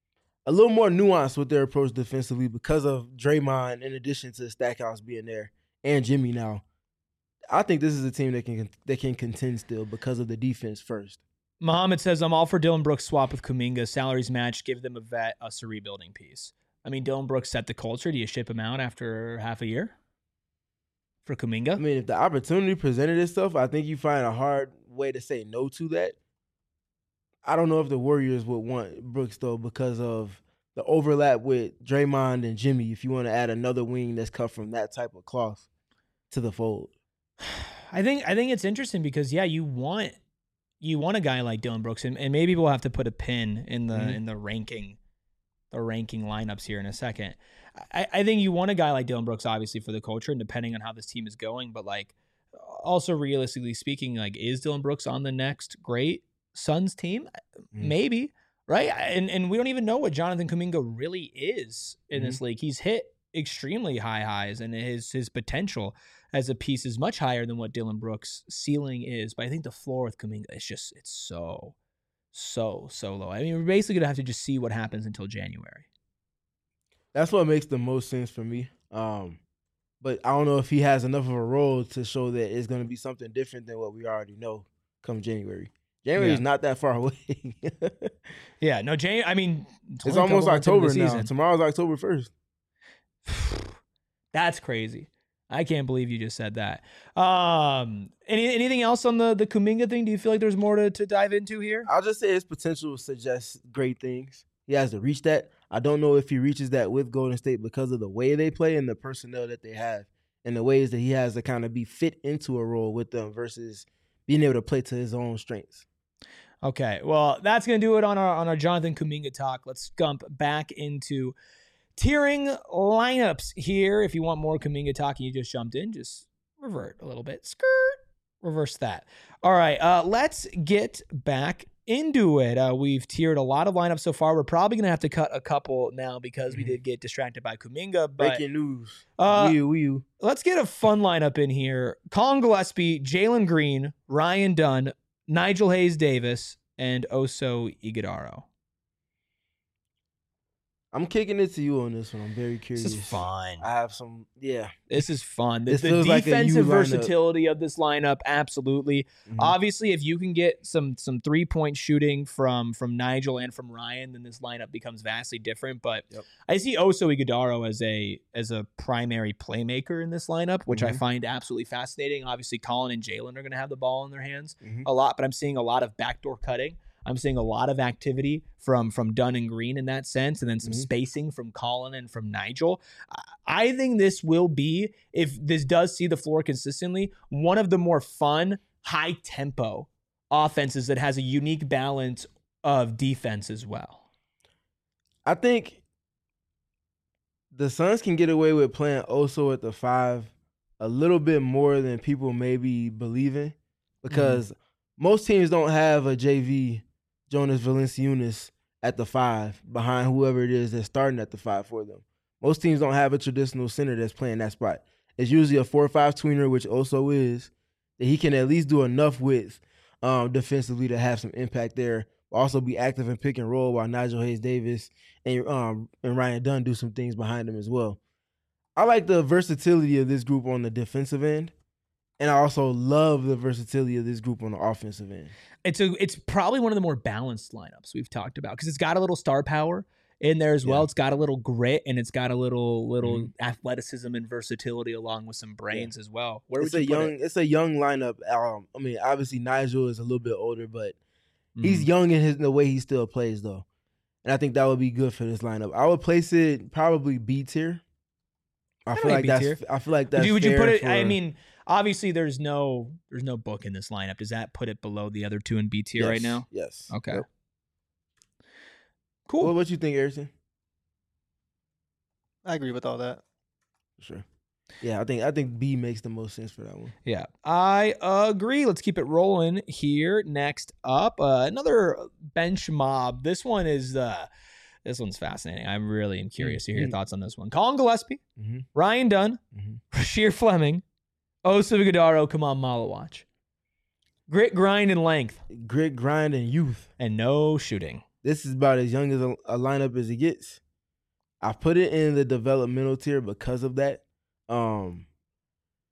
little more nuanced with their approach defensively because of Draymond, in addition to Stackhouse being there and Jimmy now. I think this is a team that can contend still because of the defense first. Muhammad says, I'm all for Dillon Brooks swap with Kuminga. Salaries match. Give them a vet, us a rebuilding piece. I mean, Dillon Brooks set the culture. Do you ship him out after half a year for Kuminga? I mean, if the opportunity presented itself, I think you find a hard way to say no to that. I don't know if the Warriors would want Brooks, though, because of the overlap with Draymond and Jimmy, if you want to add another wing that's cut from that type of cloth to the fold. I think it's interesting because, yeah, you want a guy like Dillon Brooks, and maybe we'll have to put a pin in the ranking lineups here in a second. I think you want a guy like Dillon Brooks, obviously, for the culture, and depending on how this team is going, but like also realistically speaking, like, is Dillon Brooks on the next great Suns team? Maybe, right? And we don't even know what Jonathan Kuminga really is in this league. He's hit extremely high highs, and his potential as a piece is much higher than what Dillon Brooks' ceiling is. But I think the floor with Kuminga it's so low. I mean, we're basically gonna have to just see what happens until January. That's what makes the most sense for me. But I don't know if he has enough of a role to show that it's gonna be something different than what we already know come January. January is not that far away. Yeah, no, I mean, it's almost October now. Tomorrow's October 1st. That's crazy. I can't believe you just said that. Anything else on the Kuminga thing? Do you feel like there's more to dive into here? I'll just say his potential suggests great things. He has to reach that. I don't know if he reaches that with Golden State because of the way they play and the personnel that they have and the ways that he has to kind of be fit into a role with them versus being able to play to his own strengths. Okay, well, that's going to do it on our Jonathan Kuminga talk. Let's jump back into tiering lineups here. If you want more Kuminga talk and you just jumped in, just revert a little bit. Reverse that. All right, let's get back into it. We've tiered a lot of lineups so far. We're probably going to have to cut a couple now because we did get distracted by Kuminga. But, breaking news. Let's get a fun lineup in here. Colin Gillespie, Jalen Green, Ryan Dunn, Nigel Hayes-Davis, and Oso Ighodaro. I'm kicking it to you on this one. I'm very curious. This is fun. I have some, This is fun. The feels like defensive versatility of this lineup, absolutely. Obviously, if you can get some 3-point shooting from Nigel and from Ryan, then this lineup becomes vastly different. But I see Oso Ighodaro as a primary playmaker in this lineup, which I find absolutely fascinating. Obviously, Colin and Jalen are going to have the ball in their hands a lot, but I'm seeing a lot of backdoor cutting. I'm seeing a lot of activity from Dunn and Green in that sense, and then some spacing from Colin and from Nigel. I think this will be, if this does see the floor consistently, one of the more fun, high-tempo offenses that has a unique balance of defense as well. I think the Suns can get away with playing Oso at the 5 a little bit more than people maybe believe in because most teams don't have a JV Jonas Valanciunas at the 5 behind whoever it is that's starting at the 5 for them. Most teams don't have a traditional center that's playing that spot. It's usually a 4 or 5 tweener, which Oso is, that he can at least do enough with defensively to have some impact there. Also be active in pick and roll while Nigel Hayes-Davis and Ryan Dunn do some things behind him as well. I like the versatility of this group on the defensive end. And I also love the versatility of this group on the offensive end. It's probably one of the more balanced lineups we've talked about because it's got a little star power in there as well. It's got a little grit and it's got a little athleticism and versatility along with some brains as well. It's a young lineup. I mean, obviously Nigel is a little bit older, but he's young in the way he still plays though, and I think that would be good for this lineup. I would place it probably B tier. I feel like that's. Would you put it? I mean. Obviously, there's no book in this lineup. Does that put it below the other two in B tier right now? Yes. Okay. Yep. Cool. What you think, Harrison? I agree with all that. Sure. Yeah, I think B makes the most sense for that one. Yeah, I agree. Let's keep it rolling here. Next up, another bench mob. This one's fascinating. I really am curious to hear your thoughts on this one. Colin Gillespie, Ryan Dunn, Rasheer Fleming, Oso Ighodaro, Kamal Malawach. Grit, grind, and length. Grit, grind, and youth. And no shooting. This is about as young as a lineup as it gets. I put it in the developmental tier because of that.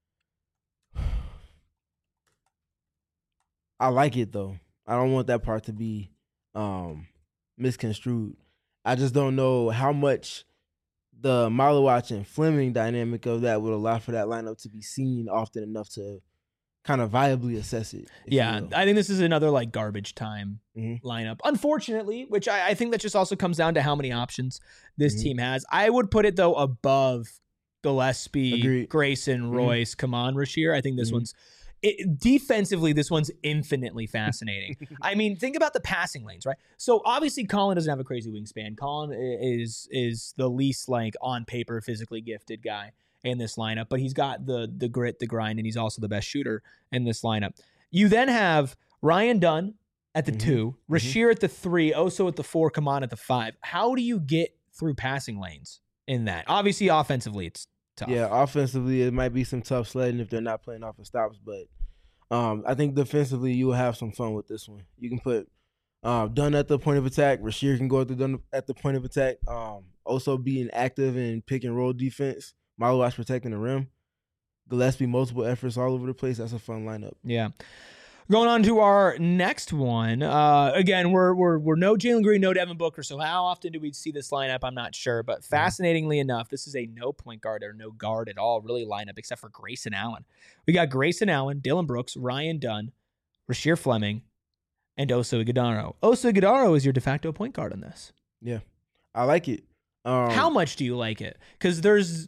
I like it though. I don't want that part to be misconstrued. I just don't know how much the Malewich and Fleming dynamic of that would allow for that lineup to be seen often enough to kind of viably assess it. Yeah, I think this is another like garbage time lineup. Unfortunately, which I think that just also comes down to how many options this team has. I would put it though above Gillespie, Agreed. Grayson, Royce, Kaman, Rasheer. I think this one's defensively, this one's infinitely fascinating. I mean, think about the passing lanes, right? So obviously Colin doesn't have a crazy wingspan. Colin is the least like on paper physically gifted guy in this lineup, but he's got the grit, the grind, and he's also the best shooter in this lineup. You then have Ryan Dunn at the 2, Rasheer at the 3, Oso at the 4, Kaman at the 5. How do you get through passing lanes in that? Obviously, offensively, it's tough. Yeah, offensively, it might be some tough sledding if they're not playing off of stops, but I think defensively, you will have some fun with this one. You can put Dunn at the point of attack. Rasheer can go at the point of attack. Also being active in pick and roll defense. Malewich protecting the rim. Gillespie, multiple efforts all over the place. That's a fun lineup. Yeah. Going on to our next one. Again, we're no Jalen Green, no Devin Booker. So how often do we see this lineup? I'm not sure. But fascinatingly enough, this is a no point guard or no guard at all really lineup except for Grayson Allen. We got Grayson Allen, Dillon Brooks, Ryan Dunn, Rasheer Fleming, and Oso Ighodaro. Oso Ighodaro is your de facto point guard in this. Yeah, I like it. How much do you like it? Because there's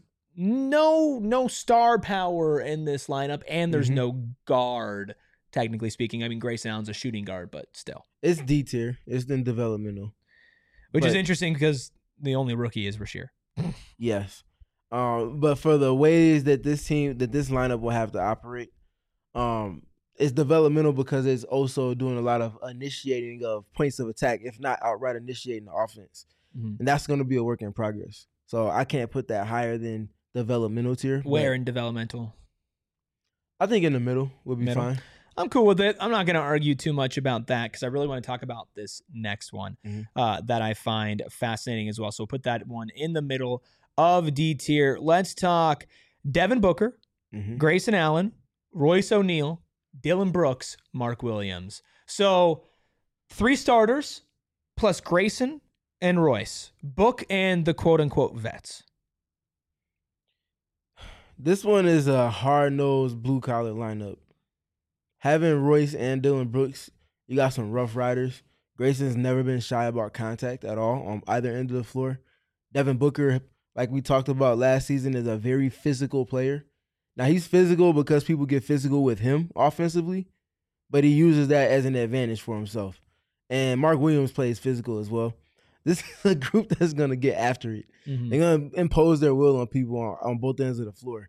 no star power in this lineup, and there's no guard. Technically speaking, I mean, Grayson Allen's a shooting guard, but still. It's D tier. It's in developmental. Which is interesting because the only rookie is Rasheer. Yes. But for the ways that this lineup will have to operate, it's developmental because it's also doing a lot of initiating of points of attack, if not outright initiating the offense. And that's going to be a work in progress. So I can't put that higher than developmental tier. Where in developmental? I think in the middle would be fine. I'm cool with it. I'm not going to argue too much about that because I really want to talk about this next one that I find fascinating as well. So we'll put that one in the middle of D tier. Let's talk Devin Booker, Grayson Allen, Royce O'Neal, Dillon Brooks, Mark Williams. So 3 starters plus Grayson and Royce. Book and the quote-unquote vets. This one is a hard-nosed blue-collar lineup. Having Royce and Dillon Brooks, you got some rough riders. Grayson's never been shy about contact at all on either end of the floor. Devin Booker, like we talked about last season, is a very physical player. Now, he's physical because people get physical with him offensively, but he uses that as an advantage for himself. And Mark Williams plays physical as well. This is a group that's going to get after it. They're going to impose their will on people on both ends of the floor.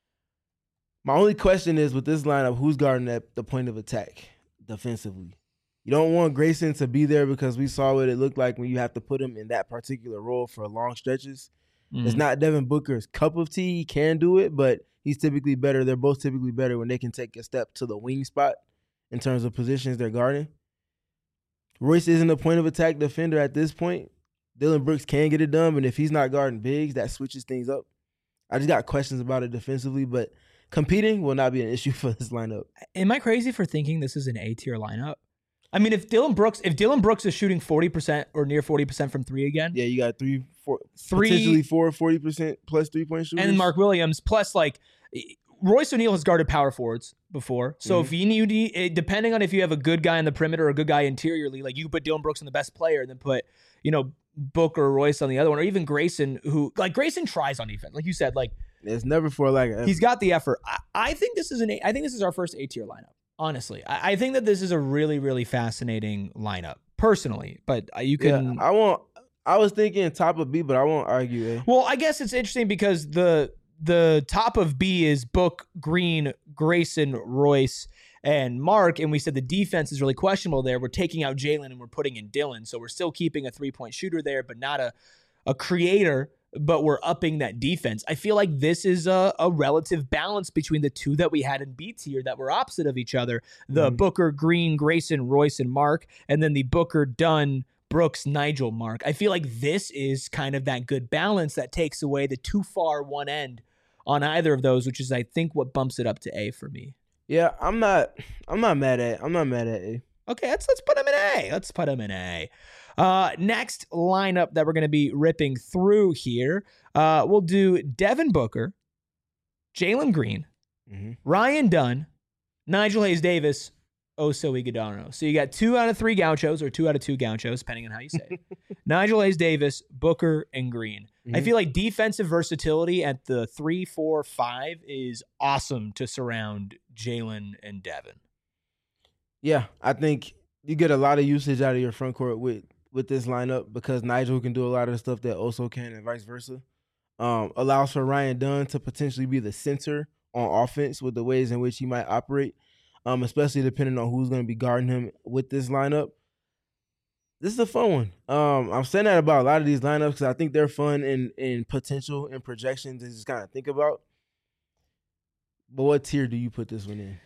My only question is, with this lineup, who's guarding at the point of attack defensively? You don't want Grayson to be there because we saw what it looked like when you have to put him in that particular role for long stretches. It's not Devin Booker's cup of tea. He can do it, but he's typically better. They're both typically better when they can take a step to the wing spot in terms of positions they're guarding. Royce isn't a point of attack defender at this point. Dillon Brooks can get it done, but if he's not guarding bigs, that switches things up. I just got questions about it defensively, but competing will not be an issue for this lineup. Am I crazy for thinking this is an A-tier lineup? I mean, if Dillon Brooks is shooting 40% or near 40% from 3 again. Yeah, you got potentially 40% plus 3-point shooters. And then Mark Williams, plus like Royce O'Neal has guarded power forwards before. So if you need, depending on if you have a good guy on the perimeter or a good guy interiorly, like you put Dillon Brooks on the best player and then put, Booker or Royce on the other one, or even Grayson, who like Grayson tries on defense. Like you said, like it's never for like he's got the effort. I think this is our first A-tier lineup. Honestly, I think that this is a really, really fascinating lineup personally, but you can. Yeah, I was thinking top of B, but I won't argue A. Well, I guess it's interesting because the top of B is Book, Green, Grayson, Royce, and Mark, and we said the defense is really questionable there. We're taking out Jalen and we're putting in Dillon, so we're still keeping a 3-point shooter there, but not a creator. But we're upping that defense. I feel like this is a relative balance between the two that we had in B tier that were opposite of each other. The Booker, Green, Grayson, Royce, and Mark, and then the Booker, Dunn, Brooks, Nigel, Mark. I feel like this is kind of that good balance that takes away the too far one end on either of those, which is, I think, what bumps it up to A for me. Yeah, I'm not mad at A. Okay, let's put him in A. Let's put him in A. Next lineup that we're going to be ripping through here, we'll do Devin Booker, Jalen Green, Ryan Dunn, Nigel Hayes Davis, Oso Ighodaro. So you got 2 out of 3 Gauchos, or 2 out of 2 Gauchos, depending on how you say it. Nigel Hayes Davis, Booker, and Green. I feel like defensive versatility at the 3, 4, 5 is awesome to surround Jalen and Devin. Yeah, I think you get a lot of usage out of your front court with this lineup because Nigel can do a lot of the stuff that Oso can and vice versa. Allows for Ryan Dunn to potentially be the center on offense with the ways in which he might operate, especially depending on who's going to be guarding him with this lineup. This is a fun one. I'm saying that about a lot of these lineups because I think they're fun in potential and projections to just kind of think about. But what tier do you put this one in?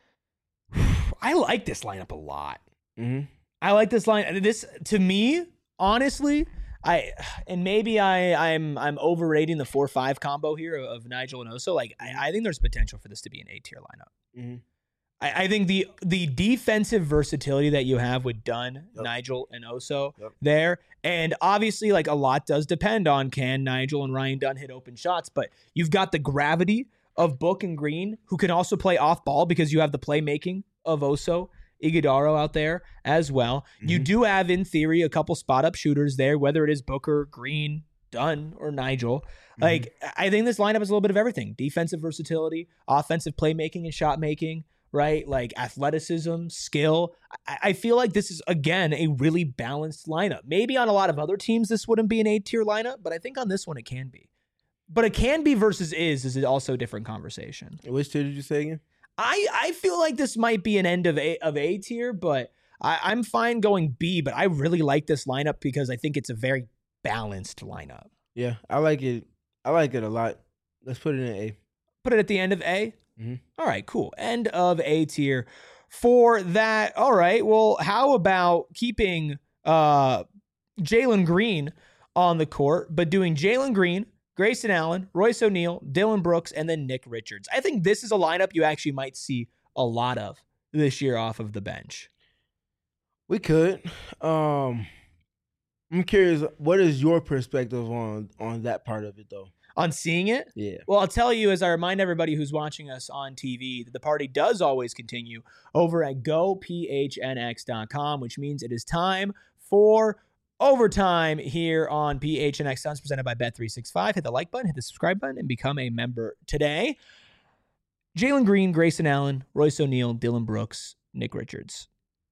I like this lineup a lot. I like this line. This, to me, honestly, maybe I'm overrating the 4-5 combo here of Nigel and Oso. Like I think there's potential for this to be an A-tier lineup. I think the defensive versatility that you have with Dunn, Nigel, and Oso there, and obviously like a lot does depend on can Nigel and Ryan Dunn hit open shots, but you've got the gravity of Book and Green, who can also play off ball because you have the playmaking of Oso Ighodaro out there as well. You do have, in theory, a couple spot-up shooters there, whether it is Booker, Green, Dunn, or Nigel. Like, I think this lineup is a little bit of everything. Defensive versatility, offensive playmaking and shot making, right? Like, athleticism, skill. I feel like this is, again, a really balanced lineup. Maybe on a lot of other teams this wouldn't be an A-tier lineup, but I think on this one it can be. But it can be versus is also a different conversation. Which tier did you say again? I feel like this might be an end of A tier, but I'm fine going B, but I really like this lineup because I think it's a very balanced lineup. Yeah, I like it. I like it a lot. Let's put it in A. Put it at the end of A? All right, cool. End of A tier for that. All right, well, how about keeping Jalen Green on the court, but doing Jalen Green, Grayson Allen, Royce O'Neal, Dillon Brooks, and then Nick Richards. I think this is a lineup you actually might see a lot of this year off of the bench. We could. I'm curious, what is your perspective on that part of it, though? On seeing it? Yeah. Well, I'll tell you, as I remind everybody who's watching us on TV, that the party does always continue over at gophnx.com, which means it is time for overtime here on PHNX Suns, presented by Bet365. Hit the like button, hit the subscribe button, and become a member today. Jalen Green, Grayson Allen, Royce O'Neal, Dillon Brooks, Nick Richards.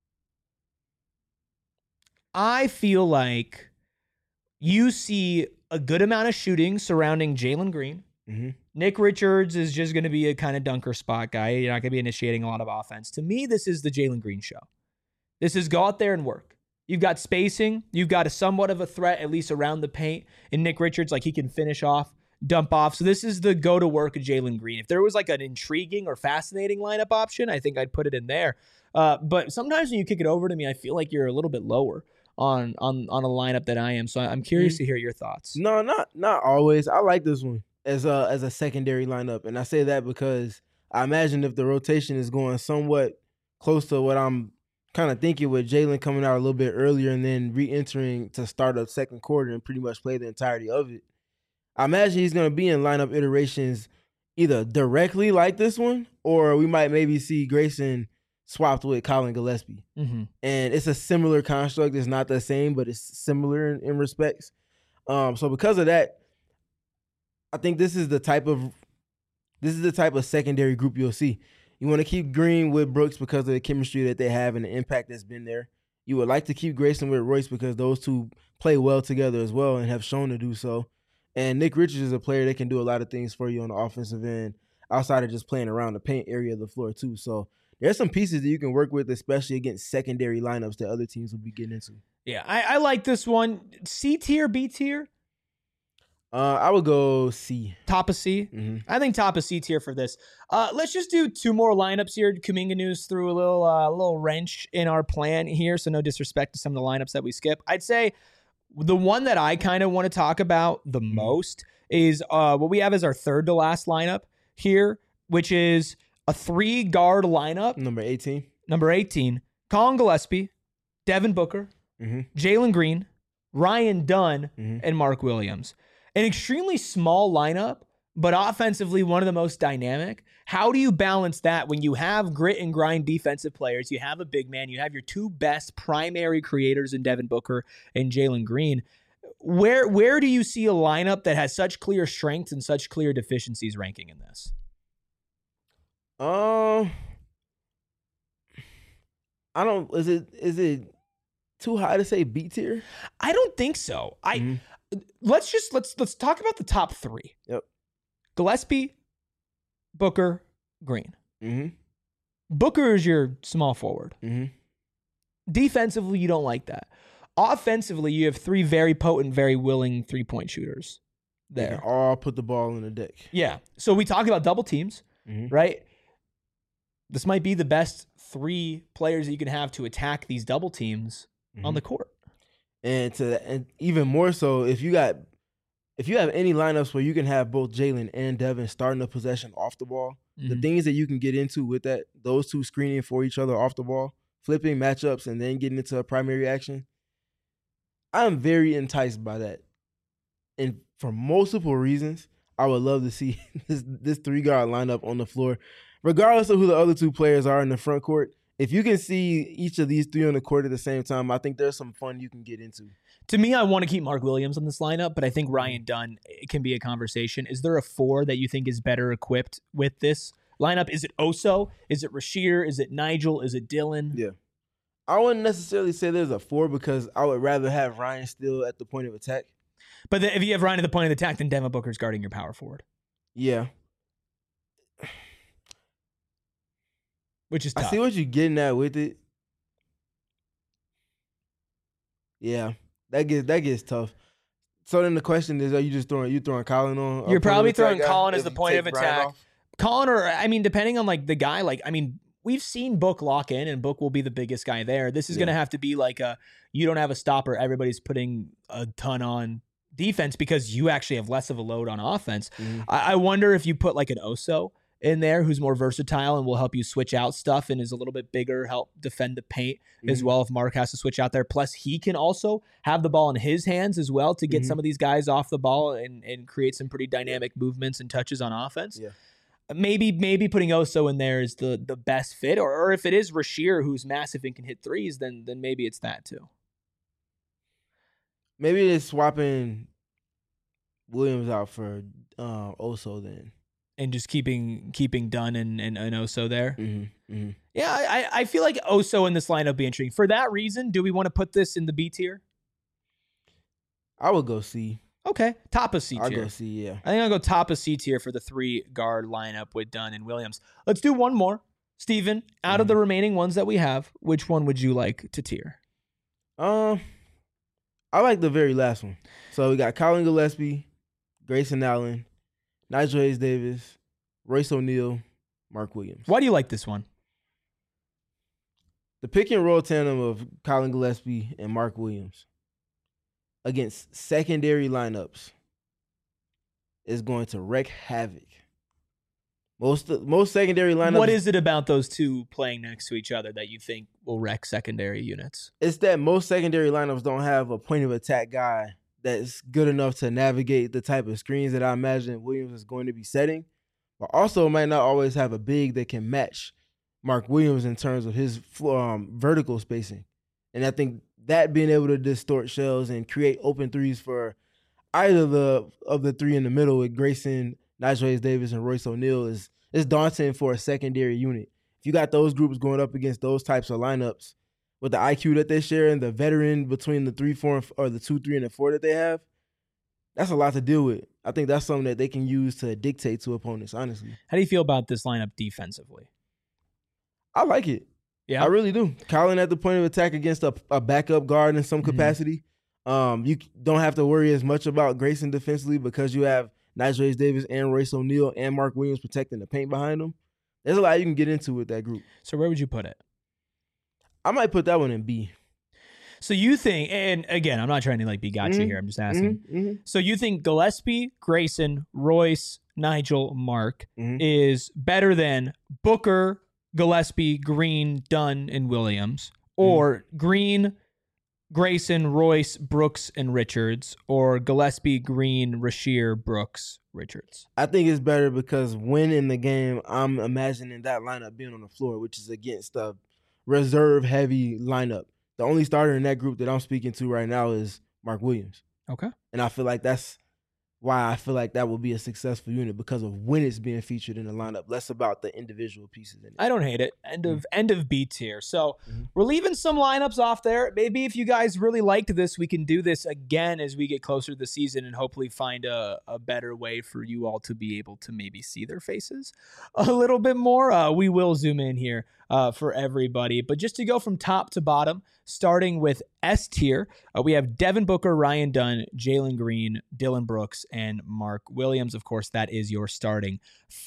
I feel like you see a good amount of shooting surrounding Jalen Green. Nick Richards is just going to be a kind of dunker spot guy. You're not going to be initiating a lot of offense. To me, this is the Jalen Green show. This is go out there and work. You've got spacing. You've got a somewhat of a threat, at least around the paint. And Nick Richards, like he can finish off, dump off. So this is the go to work of Jalen Green. If there was like an intriguing or fascinating lineup option, I think I'd put it in there. But sometimes when you kick it over to me, I feel like you're a little bit lower on a lineup than I am. So I'm curious to hear your thoughts. No, not always. I like this one as a secondary lineup. And I say that because I imagine if the rotation is going somewhat close to what I'm kind of thinking, with Jalen coming out a little bit earlier and then re-entering to start up second quarter and pretty much play the entirety of it, I imagine he's going to be in lineup iterations either directly like this one, or we might maybe see Grayson swapped with Colin Gillespie. And it's a similar construct. It's not the same, but it's similar in respects. So because of that, I think this is the type of secondary group you'll see. You want to keep Green with Brooks because of the chemistry that they have and the impact that's been there. You would like to keep Grayson with Royce because those two play well together as well and have shown to do so. And Nick Richards is a player that can do a lot of things for you on the offensive end outside of just playing around the paint area of the floor too. So there's some pieces that you can work with, especially against secondary lineups that other teams will be getting into. Yeah, I like this one. C tier, B tier? I would go C. Top of C? I think top of C tier for this. Let's just do 2 more lineups here. Kuminga News threw a little wrench in our plan here, so no disrespect to some of the lineups that we skip. I'd say the one that I kind of want to talk about the most is what we have as our third to last lineup here, which is a 3-guard lineup. Number 18. Number 18, Colin Gillespie, Devin Booker, Jalen Green, Ryan Dunn, and Mark Williams. An extremely small lineup, but offensively one of the most dynamic. How do you balance that when you have grit and grind defensive players, you have a big man, you have your two best primary creators in Devin Booker and Jalen Green? Where do you see a lineup that has such clear strengths and such clear deficiencies ranking in this? I don't. Is it too high to say B tier? I don't think so. Let's talk about the top 3. Yep. Gillespie, Booker, Green. Mm-hmm. Booker is your small forward. Mm-hmm. Defensively, you don't like that. Offensively, you have 3 very potent, very willing 3-point shooters there. They can all put the ball in the deck. Yeah. So we talk about double teams, right? This might be the best 3 players that you can have to attack these double teams on the court. And even more so, if you have any lineups where you can have both Jalen and Devin starting the possession off the ball, the things that you can get into with that, those two screening for each other off the ball, flipping matchups, and then getting into a primary action, I'm very enticed by that. And for multiple reasons, I would love to see this 3-guard lineup on the floor, regardless of who the other 2 players are in the front court. If you can see each of these 3 on the court at the same time, I think there's some fun you can get into. To me, I want to keep Mark Williams on this lineup, but I think Ryan Dunn can be a conversation. Is there a 4 that you think is better equipped with this lineup? Is it Oso? Is it Rasheer? Is it Nigel? Is it Dylan? Yeah. I wouldn't necessarily say there's a 4 because I would rather have Ryan still at the point of attack. But if you have Ryan at the point of attack, then Devin Booker's guarding your power forward. Yeah. Which is tough. I see what you're getting at with it. Yeah, that gets tough. So then the question is, are you just throwing Colin on? You're probably throwing Colin as the point of attack. Colin, or I mean, depending on like the guy, like I mean, we've seen Book lock in, and Book will be the biggest guy there. This is going to have to be like you don't have a stopper. Everybody's putting a ton on defense because you actually have less of a load on offense. I wonder if you put like an Oso in there who's more versatile and will help you switch out stuff and is a little bit bigger, help defend the paint as well if Mark has to switch out there. Plus, he can also have the ball in his hands as well to get some of these guys off the ball and create some pretty dynamic movements and touches on offense. Yeah. Maybe putting Oso in there is the best fit, or if it is Rasheer who's massive and can hit threes, then maybe it's that too. Maybe it's swapping Williams out for Oso then. And just keeping Dunn and Oso there. Yeah, I feel like Oso in this lineup would be interesting. For that reason, do we want to put this in the B tier? I would go C. Okay, top of C tier. I'll go C, yeah. I think I'll go top of C tier for the 3-guard lineup with Dunn and Williams. Let's do one more. Steven, out of the remaining ones that we have, which one would you like to tier? I like the very last one. So we got Colin Gillespie, Grayson Allen, Nigel Hayes-Davis, Royce O'Neal, Mark Williams. Why do you like this one? The pick and roll tandem of Colin Gillespie and Mark Williams against secondary lineups is going to wreak havoc. Most secondary lineups. What is it about those two playing next to each other that you think will wreck secondary units? It's that most secondary lineups don't have a point of attack guy that's good enough to navigate the type of screens that I imagine Williams is going to be setting, but also might not always have a big that can match Mark Williams in terms of his vertical spacing. And I think that being able to distort shells and create open threes for either of the 3 in the middle with Grayson, Nigel Hayes-Davis, and Royce O'Neal is daunting for a secondary unit. If you got those groups going up against those types of lineups, with the IQ that they share and the veteran between the 3, 4, or the 2, 3, and the 4 that they have, that's a lot to deal with. I think that's something that they can use to dictate to opponents, honestly. How do you feel about this lineup defensively? I like it. Yeah, I really do. Colin at the point of attack against a backup guard in some capacity. You don't have to worry as much about Grayson defensively because you have Nigel Hayes-Davis and Royce O'Neal and Mark Williams protecting the paint behind them. There's a lot you can get into with that group. So where would you put it? I might put that one in B. So you think, and again, I'm not trying to like be gotcha here. I'm just asking. So you think Gillespie, Grayson, Royce, Nigel, Mark is better than Booker, Gillespie, Green, Dunn, and Williams, or Green, Grayson, Royce, Brooks, and Richards, or Gillespie, Green, Rasheer, Brooks, Richards? I think it's better because when in the game, I'm imagining that lineup being on the floor, which is against a reserve-heavy lineup. The only starter in that group that I'm speaking to right now is Mark Williams. Okay. And I feel like that's why I feel like that will be a successful unit, because of when it's being featured in the lineup, less about the individual pieces in it. I don't hate it. End of beats here. So we're leaving some lineups off there. Maybe if you guys really liked this, we can do this again as we get closer to the season and hopefully find a better way for you all to be able to maybe see their faces a little bit more. We will zoom in here for everybody. But just to go from top to bottom, starting with S tier, we have Devin Booker, Ryan Dunn, Jalen Green, Dillon Brooks, and Mark Williams. Of course, that is your starting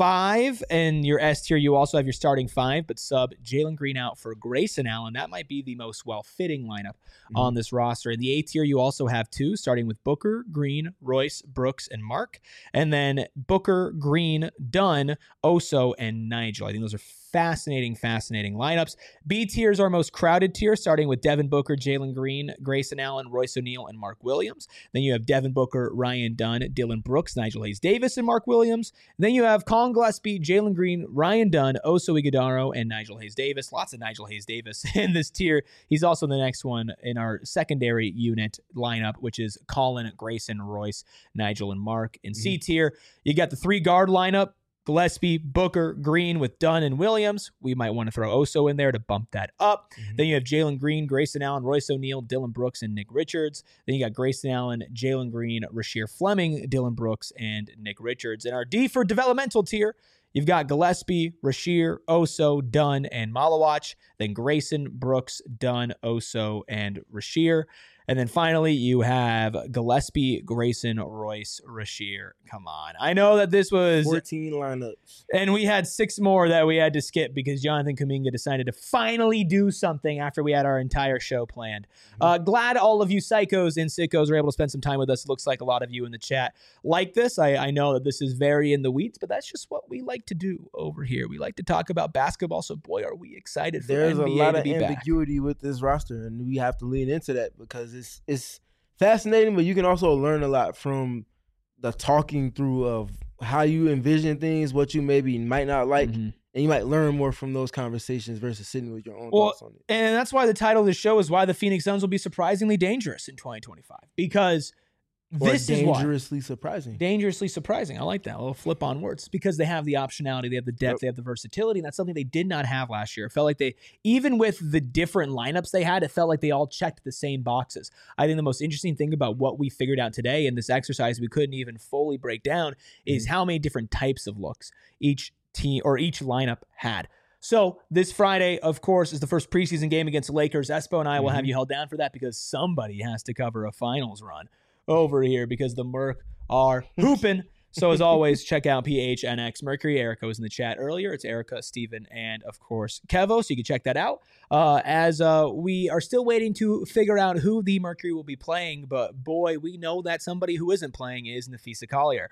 5. And your S tier, you also have your starting 5, but sub Jalen Green out for Grayson Allen. That might be the most well-fitting lineup on this roster. In the A tier, you also have 2, starting with Booker, Green, Royce, Brooks, and Mark. And then Booker, Green, Dunn, Oso, and Nigel. I think those are fascinating lineups. B tier is our most crowded tier, starting with Devin Booker, Jalen Green, Grayson Allen, Royce O'Neal, and Mark Williams. Then you have Devin Booker, Ryan Dunn, Dillon Brooks, Nigel Hayes-Davis, and Mark Williams. And then you have Colin Gillespie, Jalen Green, Ryan Dunn, Oso Ighodaro, and Nigel Hayes-Davis. Lots of Nigel Hayes-Davis in this tier. He's also the next one in our secondary unit lineup, which is Colin, Grayson, Royce, Nigel, and Mark. In C tier, you got the 3 guard lineup: Gillespie, Booker, Green with Dunn and Williams. We might want to throw Oso in there to bump that up. Then you have Jalen Green, Grayson Allen, Royce O'Neal, Dillon Brooks, and Nick Richards. Then you got Grayson Allen, Jalen Green, Rasheer Fleming, Dillon Brooks, and Nick Richards. In our D for developmental tier, you've got Gillespie, Rasheer, Oso, Dunn, and Malawach. Then Grayson, Brooks, Dunn, Oso, and Rasheer. And then finally, you have Gillespie, Grayson, Royce, Rasheer. Come on. I know that this was 14 lineups. And we had 6 more that we had to skip because Jonathan Kuminga decided to finally do something after we had our entire show planned. Glad all of you psychos and sickos were able to spend some time with us. It looks like a lot of you in the chat like this. I know that this is very in the weeds, but that's just what we like to do over here. We like to talk about basketball, so boy, are we excited for There's NBA a lot of to be ambiguity with this roster, and we have to lean into that because it's fascinating, but you can also learn a lot from the talking through of how you envision things, what you maybe might not like, and you might learn more from those conversations versus sitting with your own thoughts on it. And that's why the title of the show is why the Phoenix Suns will be surprisingly dangerous in 2025, because this is dangerously surprising. Dangerously surprising. I like that. A little flip on words. Because they have the optionality, they have the depth, they have the versatility, and that's something they did not have last year. It felt like they, even with the different lineups they had, it felt like they all checked the same boxes. I think the most interesting thing about what we figured out today in this exercise we couldn't even fully break down is how many different types of looks each team or each lineup had. So this Friday, of course, is the first preseason game against the Lakers. Espo and I will have you held down for that because somebody has to cover a finals run over here because the Merc are hooping. So as always, check out PHNX Mercury. Erica was in the chat earlier. It's Erica, Steven, and of course Kevo. So you can check that out. As we are still waiting to figure out who the Mercury will be playing, but boy, we know that somebody who isn't playing is Nafisa Collier.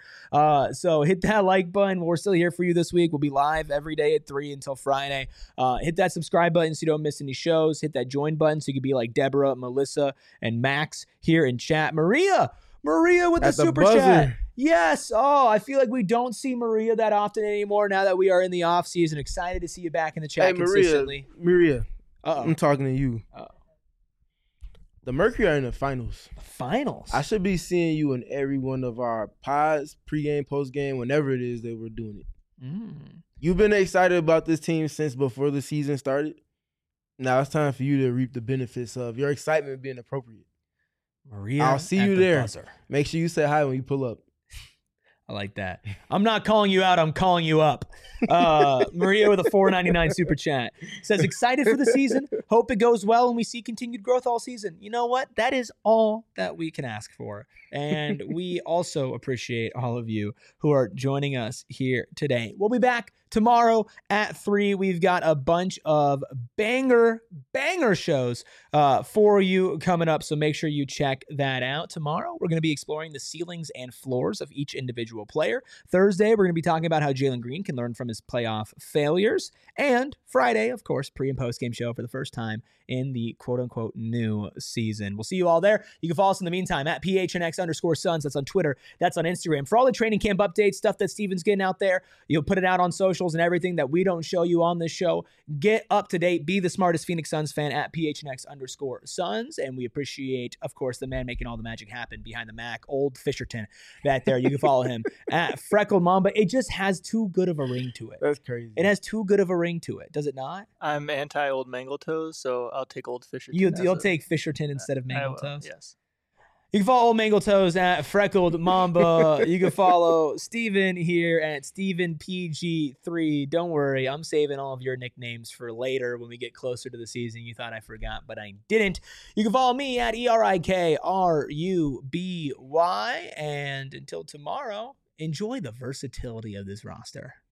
So hit that like button. We're still here for you this week. We'll be live every day at 3 until Friday. Hit that subscribe button so you don't miss any shows. Hit that join button so you can be like Deborah, Melissa, and Max here in chat. Maria with the super chat. Yes. Oh, I feel like we don't see Maria that often anymore now that we are in the off season. Excited to see you back in the chat consistently. Maria, I'm talking to you. The Mercury are in the finals. Finals? I should be seeing you in every one of our pods, pregame, postgame, whenever it is that we're doing it. You've been excited about this team since before the season started. Now it's time for you to reap the benefits of your excitement being appropriate. Maria, I'll see you there. Buzzer. Make sure you say hi when you pull up. I like that. I'm not calling you out. I'm calling you up. Maria with a $4.99 super chat says, excited for the season. Hope it goes well and we see continued growth all season. You know what? That is all that we can ask for. And we also appreciate all of you who are joining us here today. We'll be back tomorrow at 3, we've got a bunch of banger shows for you coming up. So make sure you check that out. Tomorrow, we're going to be exploring the ceilings and floors of each individual player. Thursday, we're going to be talking about how Jalen Green can learn from his playoff failures. And Friday, of course, pre and post game show for the first time in the quote unquote new season. We'll see you all there. You can follow us in the meantime at PHNX_Suns. That's on Twitter. That's on Instagram. For all the training camp updates, stuff that Steven's getting out there, you'll put it out on socials and everything that we don't show you on this show. Get up to date. Be the smartest Phoenix Suns fan at PHNX_Suns. And we appreciate, of course, the man making all the magic happen behind the Mac, old Fisherton back there. You can follow him at Freckled Mamba. It just has too good of a ring to it. That's crazy. It has too good of a ring to it, does it not? I'm anti-old Mangletoes, so I'll take old Fisherton. You'll take Fisherton instead of Mangletoes? Yes. You can follow Mangletoes at Freckled Mamba. You can follow Steven here at StevenPG3. Don't worry, I'm saving all of your nicknames for later when we get closer to the season. You thought I forgot, but I didn't. You can follow me at ERIKRUBY. And until tomorrow, enjoy the versatility of this roster.